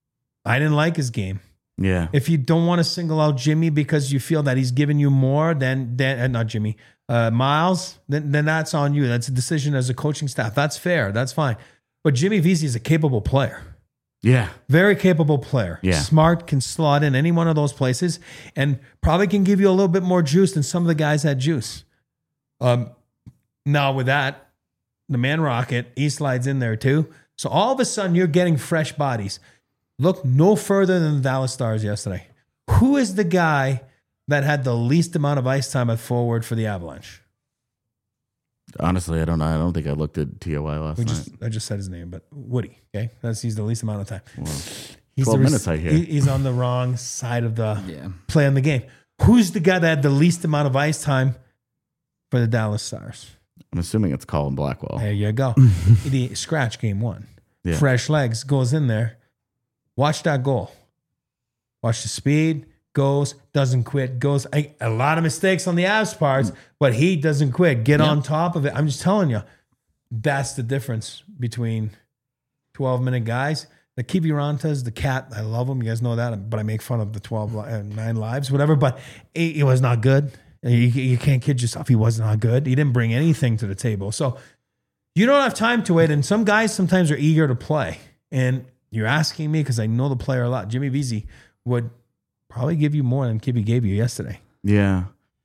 I didn't like his game. Yeah. If you don't want to single out Jimmy because you feel that he's giving you more than, than uh, not Jimmy, uh, Miles, then, then that's on you. That's a decision as a coaching staff. That's fair. That's fine. But Jimmy Vesey is a capable player. Yeah. Very capable player. Yeah. Smart, can slot in any one of those places, and probably can give you a little bit more juice than some of the guys had juice. Um, now with that, the Man Rocket, he slides in there too. So all of a sudden you're getting fresh bodies. Look no further than the Dallas Stars yesterday. Who is the guy that had the least amount of ice time at forward for the Avalanche? Honestly, I don't know. I don't think I looked at T O I last We night. just, I just said his name, but Woody. Okay, that's he's the least amount of time. Well, He's twelve the res- minutes I hear. he- he's on the wrong side of the Yeah. play on the game. Who's the guy that had the least amount of ice time for the Dallas Stars? I'm assuming it's Colin Blackwell. There you go. The scratch game one. Yeah. Fresh legs goes in there. Watch that goal. Watch the speed. Goes, doesn't quit, goes. A, a lot of mistakes on the Avs parts, but he doesn't quit. Get on top of it. I'm just telling you, that's the difference between twelve minute guys. The Kivirantas, the Cat, I love him. You guys know that, but I make fun of the twelve, li- uh, nine lives, whatever. But he, he was not good. You, you can't kid yourself. He was not good. He didn't bring anything to the table. So you don't have time to wait. And some guys sometimes are eager to play. And you're asking me because I know the player a lot. Jimmy Vesey would probably give you more than Kibby gave you yesterday. Yeah.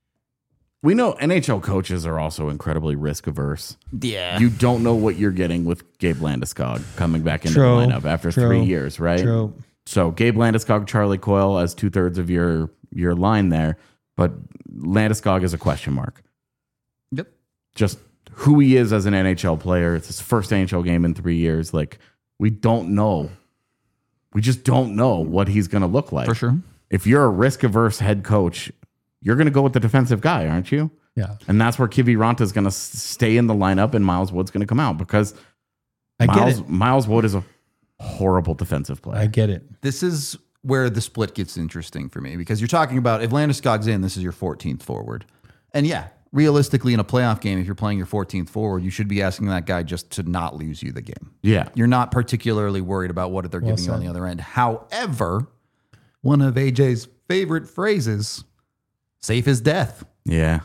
We know N H L coaches are also incredibly risk averse. Yeah. You don't know what you're getting with Gabe Landeskog coming back into True. the lineup after True. three years, right? True. So Gabe Landeskog, Charlie Coyle as two thirds of your your line there, but Landeskog is a question mark. Yep. Just who he is as an N H L player. It's his first N H L game in three years. Like we don't know. We just don't know what he's going to look like. For sure. If you're a risk averse head coach, you're going to go with the defensive guy, aren't you? Yeah. And that's where Kiviranta is going to stay in the lineup and Miles Wood's going to come out because I get Miles, it. Miles Wood is a horrible defensive player. I get it. This is where the split gets interesting for me, because you're talking about if Landeskog's in, this is your fourteenth forward. And yeah, realistically in a playoff game, if you're playing your fourteenth forward, you should be asking that guy just to not lose you the game. Yeah. You're not particularly worried about what they're giving you on the other end. However, one of A J's favorite phrases, safe as death. Yeah.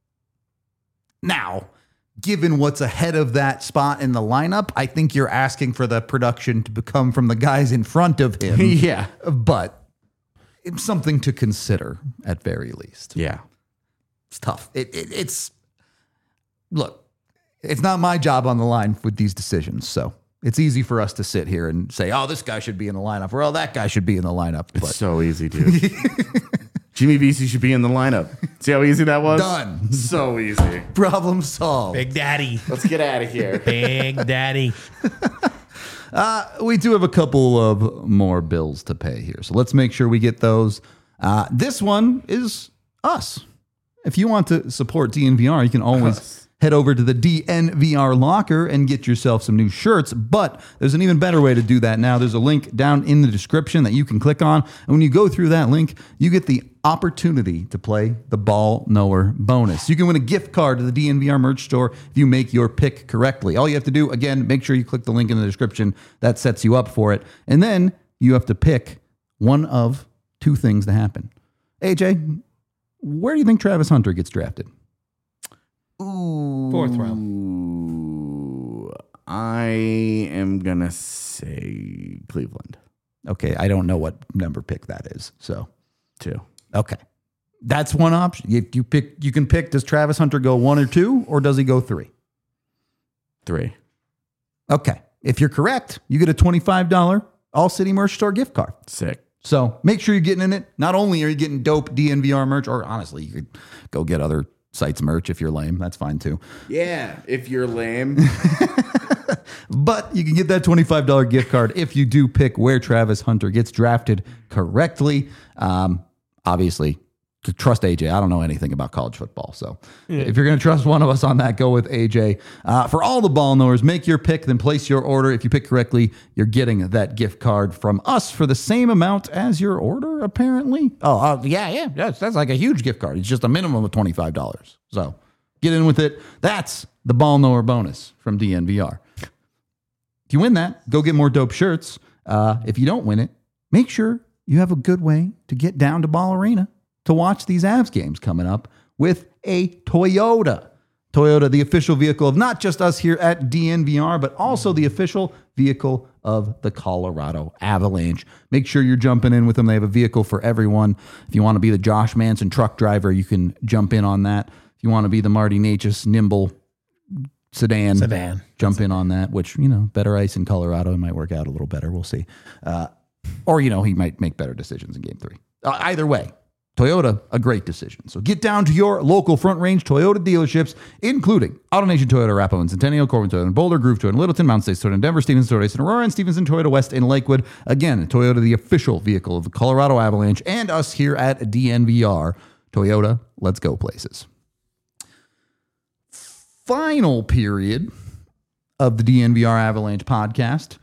Now, given what's ahead of that spot in the lineup, I think you're asking for the production to come from the guys in front of him. Yeah. But it's something to consider at very least. Yeah. It's tough. It, it, it's, look, it's not my job on the line with these decisions. So it's easy for us to sit here and say, oh, this guy should be in the lineup, or oh, that guy should be in the lineup. It's But so easy, dude. Jimmy Vesey should be in the lineup. See how easy that was? Done. So easy. Problem solved. Big Daddy. Let's get out of here. Big Daddy. Uh, we do have a couple of more bills to pay here. So let's make sure we get those. Uh, this one is us. If you want to support D N V R, you can always Us. head over to the D N V R locker and get yourself some new shirts. But there's an even better way to do that now. There's a link down in the description that you can click on. And when you go through that link, you get the opportunity to play the Ball Knower bonus. You can win a gift card to the D N V R merch store if you make your pick correctly. All you have to do, again, make sure you click the link in the description. That sets you up for it. And then you have to pick one of two things to happen. A J, where do you think Travis Hunter gets drafted? Ooh. Fourth round. Ooh. I am going to say Cleveland. Okay, I don't know what number pick that is. So, Two. okay. That's one option. You, you pick. You can pick, does Travis Hunter go one or two, or does he go three? Three. Okay. If you're correct, you get a twenty-five dollars All City Merch Store gift card. Sick. So make sure you're getting in it. Not only are you getting dope D N V R merch, or honestly, you could go get other sites merch if you're lame. That's fine too. Yeah, if you're lame. But you can get that twenty-five dollars gift card if you do pick where Travis Hunter gets drafted correctly. Um, obviously, to trust A J. I don't know anything about college football. So if you're going to trust one of us on that, go with A J. Uh, for all the ball knowers, make your pick, then place your order. If you pick correctly, you're getting that gift card from us for the same amount as your order, apparently. Oh, uh, yeah, yeah. That's, that's like a huge gift card. It's just a minimum of twenty-five dollars. So get in with it. That's the ball knower bonus from D N V R. If you win that, go get more dope shirts. Uh, if you don't win it, make sure you have a good way to get down to Ball Arena to watch these Avs games coming up with a Toyota. Toyota, the official vehicle of not just us here at D N V R, but also the official vehicle of the Colorado Avalanche. Make sure you're jumping in with them. They have a vehicle for everyone. If you want to be the Josh Manson truck driver, you can jump in on that. If you want to be the Marty Necas nimble sedan, Sedan. jump in on that, which, you know, better ice in Colorado, it might work out a little better. We'll see. Uh, or, you know, he might make better decisions in game three. Uh, either way, Toyota, a great decision. So get down to your local Front Range Toyota dealerships, including AutoNation Toyota, Arapahoe and Centennial, Corbin Toyota, and Boulder, Groove Toyota, and Littleton, Mountain States Toyota, and Denver, Stevens Toyota, and Aurora, and Stevenson Toyota West in Lakewood. Again, Toyota, the official vehicle of the Colorado Avalanche, and us here at D N V R. Toyota, let's go places. Final period of the D N V R Avalanche podcast.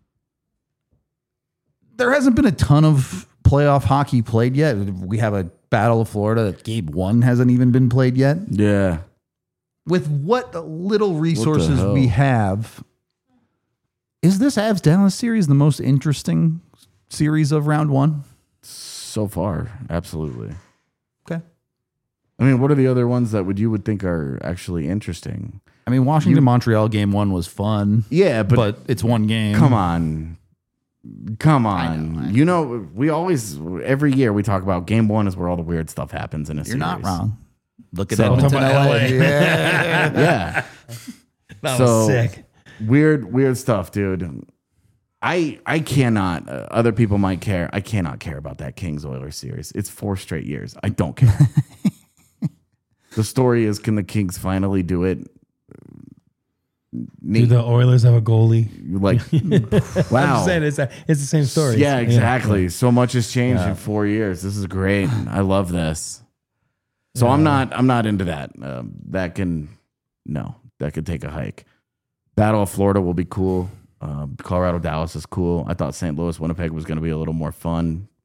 There hasn't been a ton of playoff hockey played yet. We have a Battle of Florida that game one hasn't even been played yet. Yeah. With what little resources hell? we have, is this Avs Dallas series the most interesting series of round one? So far, absolutely. Okay. I mean, what are the other ones that would you would think are actually interesting? I mean, Washington Montreal game one was fun. Yeah, but, but it's one game. come on. Come on. I know, I know. You know, we always, every year we talk about game one is where all the weird stuff happens in a You're series. not wrong. Look at So- Edmonton, Talking L about A. L A. Yeah. Yeah. That So- was sick. Weird, weird stuff, dude. I I cannot, uh, other people might care. I cannot care about that Kings Oilers series. It's four straight years. I don't care. The story is, can the Kings finally do it? Do Neat. the Oilers have a goalie? Like, wow. I'm just saying it's, a, it's the same story. Yeah, exactly. So much has changed Yeah. in four years. This is great. I love this. So I'm not. I'm not into that. Um, that can, no, that could take a hike. Battle of Florida will be cool. Um, Colorado Dallas is cool. I thought Saint Louis Winnipeg was going to be a little more fun.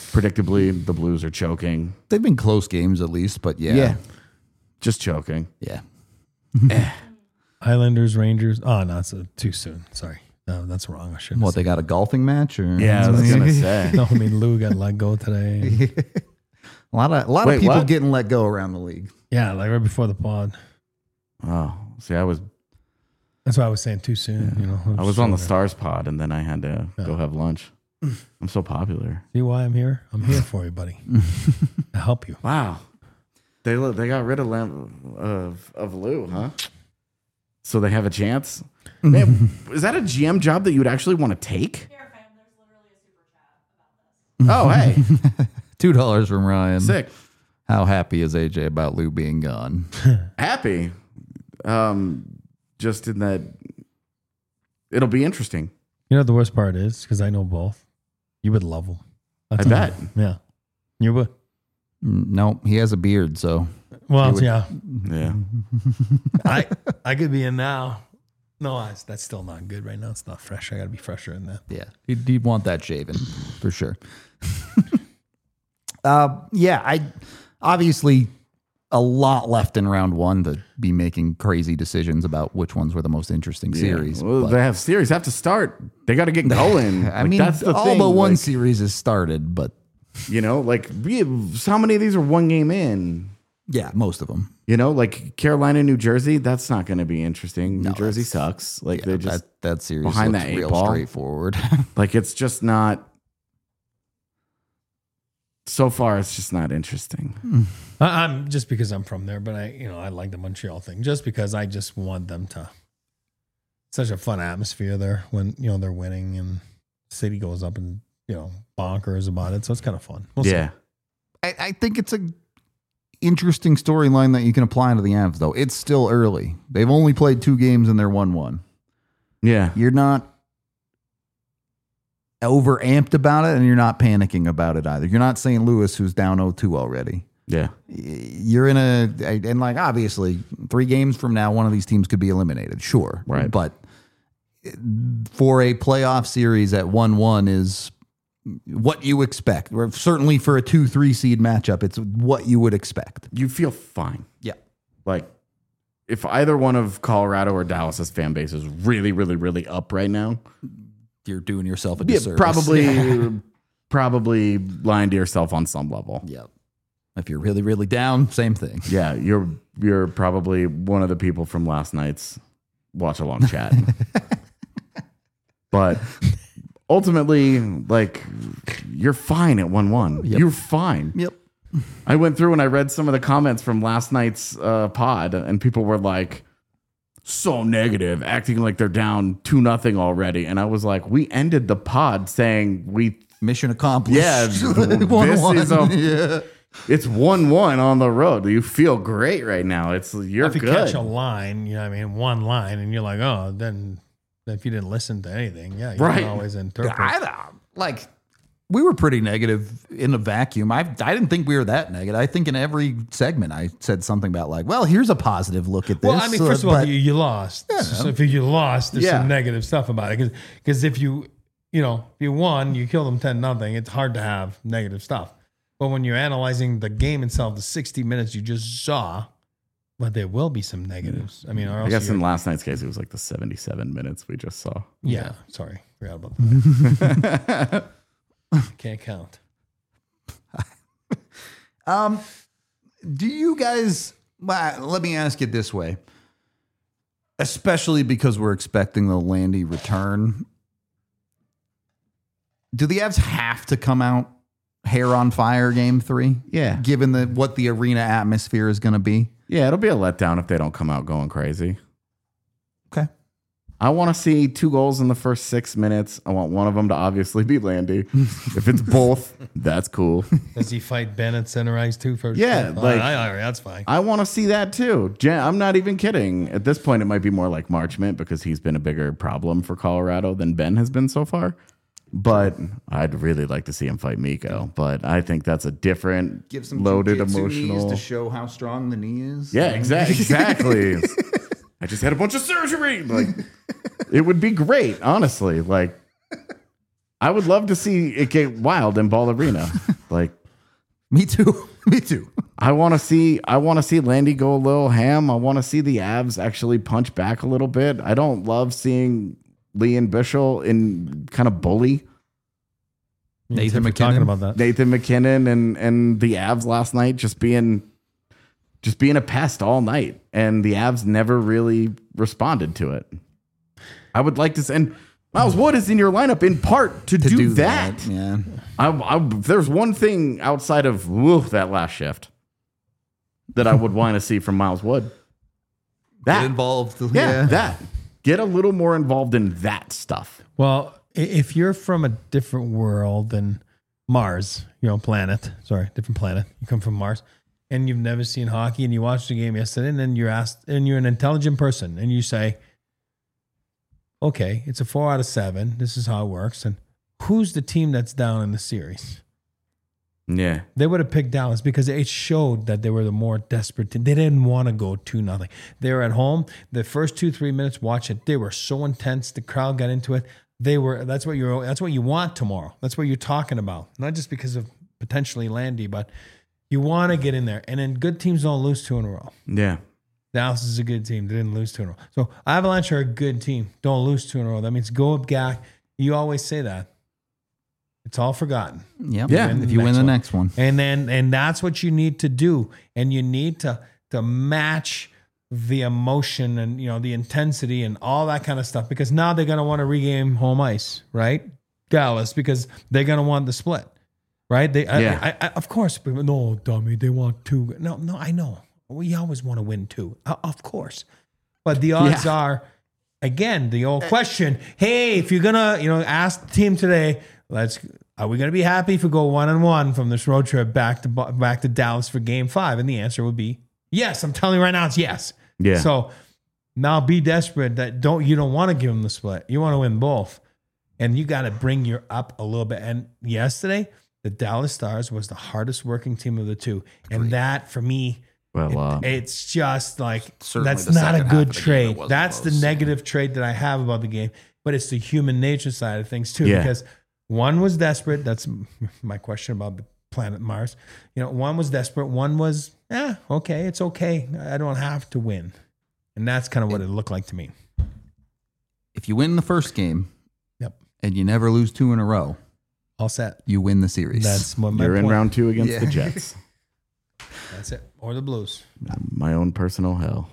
predictably, the Blues are choking. They've been close games at least, but yeah. Just choking. Yeah. Islanders, Rangers. Oh, no, it's uh, too soon. Sorry. No, that's wrong. I shouldn't. What, they got a golfing match? Or Yeah, I was going to say. No, I mean, Lou got let go today. A lot of a lot Wait, of people what? getting let go around the league. Yeah, like right before the pod. Oh, see, I was That's why I was saying too soon. You know, I was on the Stars pod, and then I had to go have lunch. I'm so popular. See why I'm here? I'm here for you, buddy. To help you. Wow, they lo- they got rid of Lam- of of Lou, huh? So they have a chance. Man, is that a G M job that you would actually want to take? Here, fam, there's literally a super chat about this. Oh, hey, Two dollars from Ryan. sick, How happy is A J about Lou being gone? happy. Um, just in that, it'll be interesting. You know what the worst part is? Because I know both. You would love them. I bet. Yeah. You would. No, he has a beard, so Well, would- yeah. Yeah. I I could be in now. No, that's, that's still not good right now. It's not fresh. I got to be fresher than that. yeah, you'd, you'd want that shaven for sure. uh, yeah, I obviously a lot left in round one to be making crazy decisions about which ones were the most interesting series. Well, but- they have series have to start. They got to get going. I Like, mean, that's the all thing. but one like, series has started, but you know, like we have, how many of these are one game in? yeah, most of them. You know, like Carolina, New Jersey, that's not going to be interesting. No, New Jersey that's- sucks. Like Yeah, they just that, that series behind looks that eight real ball. straightforward. like it's just not. So far, it's just not interesting. I, I'm just because I'm from there, but I, you know, I like the Montreal thing just because I just want them to. Such a fun atmosphere there when you know they're winning and city goes up and you know bonkers about it, so it's kind of fun. We'll see. Yeah, I, I think it's a interesting storyline that you can apply to the Avs, though. It's still early. They've only played two games and they're one one. yeah. You're not over amped about it and you're not panicking about it either. You're not Saint Louis, who's down oh two already. Yeah. You're in a, and like obviously, three games from now, one of these teams could be eliminated, sure. Right. But for a playoff series at one one is what you expect. Or certainly for a two three seed matchup, it's what you would expect. You feel fine. Yeah. Like if either one of Colorado or Dallas's fan base is really, really, really up right now, You're doing yourself a yeah, disservice. probably, probably lying to yourself on some level. Yeah. If you're really, really down, same thing. Yeah, you're you're probably one of the people from last night's watch along chat. But ultimately, like you're fine at one one. Yep. You're fine. Yep. I went through and I read some of the comments from last night's uh, pod, and people were like, so negative, acting like they're down two nothing already. And I was like, we ended the pod saying we Mission accomplished. Yeah, one, this one. is a- yeah. it's one one on the road. You feel great right now. It's you're If you good. catch a line, you know, what I mean, one line, and you're like, oh, then if you didn't listen to anything, yeah, you Right. can always interpret. I don't- like we were pretty negative in a vacuum. I I didn't think we were that negative. I think in every segment I said something about like, well, here's a positive look at this. Well, I mean, uh, first of all, but- you, you lost. So if you lost, there's Yeah. some negative stuff about it. Because if you, you know, if you won, you killed them ten nothing. It's hard to have negative stuff. But when you're analyzing the game itself, the sixty minutes you just saw, but there will be some negatives. I mean, or I else guess you're- in last night's case, it was like the seventy-seven minutes we just saw. yeah, sorry, forgot about that. Can't count. Um, do you guys? Well, let me ask it this way, especially because we're expecting the Landy return. Do the Avs have to come out hair on fire game three? Yeah. Given the what the arena atmosphere is going to be. Yeah, it'll be a letdown if they don't come out going crazy. Okay. I want to see two goals in the first six minutes. I want one of them to obviously be Landy. If it's both, that's cool. Does he fight Ben at center ice too? First, Yeah, Oh, like- I- I- that's fine. I want to see that too. Jan- I'm not even kidding. At this point, it might be more like Marchment because he's been a bigger problem for Colorado than Ben has been so far. But I'd really like to see him fight Miko. But I think that's a different, Give some loaded jujitsu emotional. knees to show how strong the knee is. Yeah, exactly. Exactly. I just had a bunch of surgery. Like, it would be great, honestly. Like, I would love to see it get wild in Ball Arena. Like, Me too. Me too. I want to see I want to see Landy go a little ham. I want to see the Avs actually punch back a little bit. I don't love seeing Lee and Bischel in kind of bully Nathan We're talking McKinnon. about that. Nathan McKinnon and and the Avs last night just being just being a pest all night, and the Avs never really responded to it. I would like to see, and Miles Wood is in your lineup in part to, To do, do that. that, yeah. I, I, if there's one thing outside of woo, that last shift that I would want to see from Miles Wood. That Get involved. yeah, that. Get a little more involved in that stuff. Well, i- if you're from a different world than Mars, you know, planet, sorry, different planet, you come from Mars, and you've never seen hockey, and you watched the game yesterday, and then you're asked, and you're an intelligent person, and you say, okay, it's a four out of seven. This is how it works. And who's the team that's down in the series? Yeah. They would have picked Dallas because it showed that they were the more desperate team. They didn't want to go two nothing. They were at home. The first two three minutes, watch it. They were so intense. The crowd got into it. They were. That's what you're. That's what you want tomorrow. That's what you're talking about. Not just because of potentially Landy, but you want to get in there. And then good teams don't lose two in a row. Yeah. Dallas is a good team. They didn't lose two in a row. So Avalanche are a good team. Don't lose two in a row. That means go up, Gak. You always say that. It's all forgotten. Yep. Yeah. If you win the next one. And then and that's what you need to do. And you need to to match the emotion and you know the intensity and all that kind of stuff because now they're gonna want to regame home ice, right? Dallas, because they're gonna want the split. Right? They Yeah. I, I, of course, but no, dummy, they want two. No, no, I know. We always want to win two. Uh, of course. But the odds Yeah. are again, the old question, hey, if you're gonna, you know, ask the team today, let's are we gonna be happy if we go one and one from this road trip back to back to Dallas for game five? And the answer would be yes. I'm telling you right now, it's yes. Yeah. So now be desperate that don't you don't want to give them the split. You want to win both. And you got to bring your up a little bit. And yesterday, the Dallas Stars was the hardest working team of the two. And that for me, Well, uh, it's just like Certainly that's the not a second half good of the game, it trade. wasn't That's close. the negative trait that I have about the game. But it's the human nature side of things too, Yeah. because one was desperate. That's my question about the planet Mars. You know, one was desperate. One was, yeah, okay, it's okay. I don't have to win, and that's kind of what it looked like to me. If you win the first game Yep, and you never lose two in a row, all set. you win the series. That's what my you're in point. round two against Yeah. the Jets. That's it, or the Blues. My own personal hell.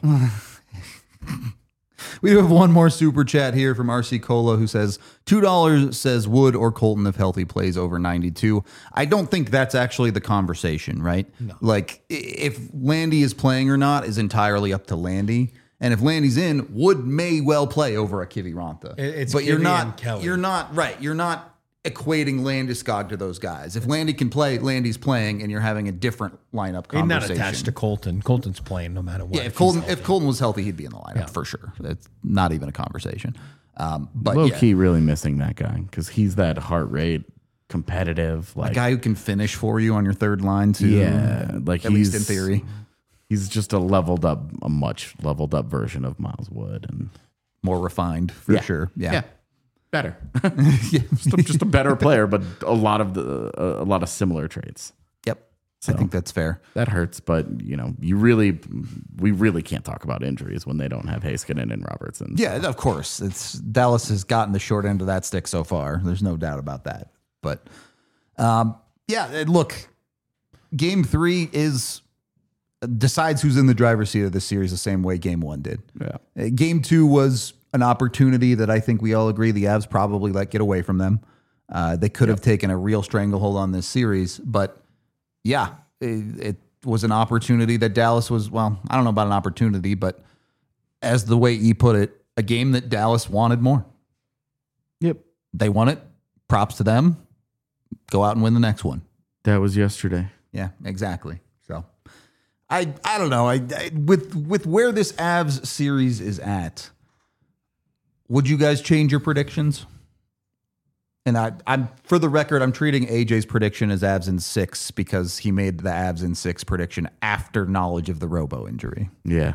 We do have one more super chat here from R C Cola who says two dollars says Wood or Colton if healthy plays over ninety-two. I don't think that's actually the conversation, right? No. Like i- if Landy is playing or not is entirely up to Landy. And if Landy's in, Wood may well play over a Kiviranta. It- it's but you're Kivi not and Kelly. you're not right. You're not equating Landeskog to those guys. If Landy can play, Landy's playing, and you're having a different lineup He's conversation. not attached to Colton. Colton's playing no matter what. Yeah, if he's Colton healthy. if Colton was healthy, he'd be in the lineup Yeah. for sure. It's not even a conversation. Um, but Low yeah, key, really missing that guy because he's that heart rate, competitive, a like guy who can finish for you on your third line too. yeah, like at he's least in theory, He's just a leveled up, a much leveled up version of Miles Wood, and more refined for Yeah. sure. Yeah. yeah, better, just, a, just a better player, but a lot of the a, a lot of similar traits. Yep. So. I think that's fair. That hurts, but you know, you really, we really can't talk about injuries when they don't have Heiskanen and Robertson. Yeah, of course. It's Dallas has gotten the short end of that stick so far. There's no doubt about that. But um, yeah, and look, game three is decides who's in the driver's seat of this series the same way game one did. Yeah. Uh, Game two was an opportunity that I think we all agree the Avs probably let get away from them. Uh, they could have taken a real stranglehold on this series, but yeah, it, it was an opportunity that Dallas was, well, I don't know about an opportunity, but as the way E put it, a game that Dallas wanted more. Yep. They won it. Props to them. Go out and win the next one. That was yesterday. Yeah, exactly. So I I don't know. I, I with with where this Avs series is at, would you guys change your predictions? And I, I'm for the record, I'm treating A J's prediction as Avs in six because he made the Avs in six prediction after knowledge of the Robo injury. Yeah.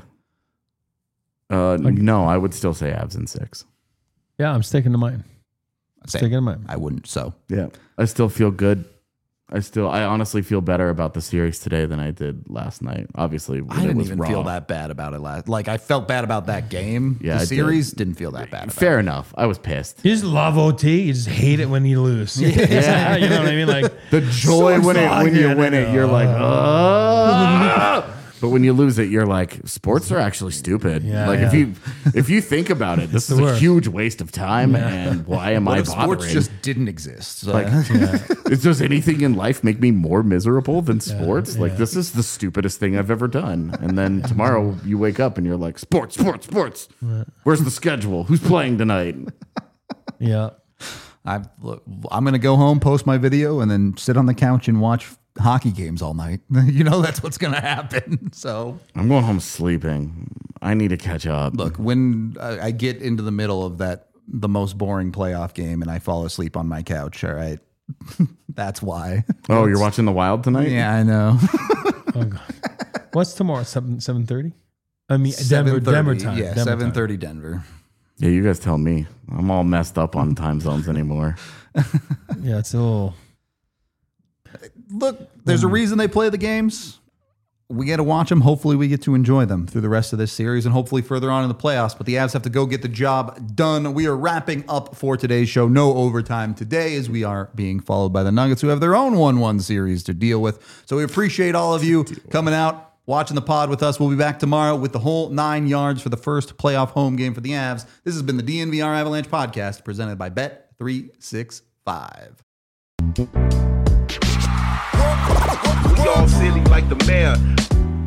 Uh, no, I would still say Avs in six. Yeah, I'm sticking to mine. Same. Sticking to mine. I wouldn't. So Yeah. I still feel good. I still, I honestly feel better about the series today than I did last night. Obviously, when I it didn't was even raw. feel that bad about it last. Like I felt bad about that game. Yeah, the I did. series did. not feel that bad. About Fair enough. I was pissed. You just love O T. You just hate it when you lose. Yeah. You know what I mean? Like The joy So when it when you excited. win it, you're like, oh. But when you lose it, you're like, sports are actually stupid. Yeah, like yeah. if you if you think about it, this is the a worst. huge waste of time. And why am What I if bothering? sports just didn't exist? So- Like, does anything in life make me more miserable than sports? Like, yeah. this is the stupidest thing I've ever done. And then tomorrow you wake up and you're like, sports, sports, sports. Where's the schedule? Who's playing tonight? yeah. I look, I'm gonna go home, post my video, and then sit on the couch and watch hockey games all night. You know that's what's gonna happen. So I'm going home sleeping. I need to catch up. look, when I, I get into the middle of that, the most boring playoff game, and I fall asleep on my couch. All right, that's why. Oh, you're watching the Wild tonight? Yeah, I know. Oh God. What's tomorrow? Seven seven thirty. I mean Denver Denver time. Yeah, Denver seven time. thirty Denver. Yeah, you guys tell me. I'm all messed up on time zones anymore. Yeah, it's a little. Look, there's a reason they play the games. We get to watch them. Hopefully, we get to enjoy them through the rest of this series and hopefully further on in the playoffs. But the Avs have to go get the job done. We are wrapping up for today's show. No overtime today as we are being followed by the Nuggets, who have their own one one series to deal with. So we appreciate all of you coming out, watching the pod with us. We'll be back tomorrow with the whole nine yards for the first playoff home game for the Avs. This has been the D N V R Avalanche podcast presented by Bet three sixty-five. We all silly like the mayor.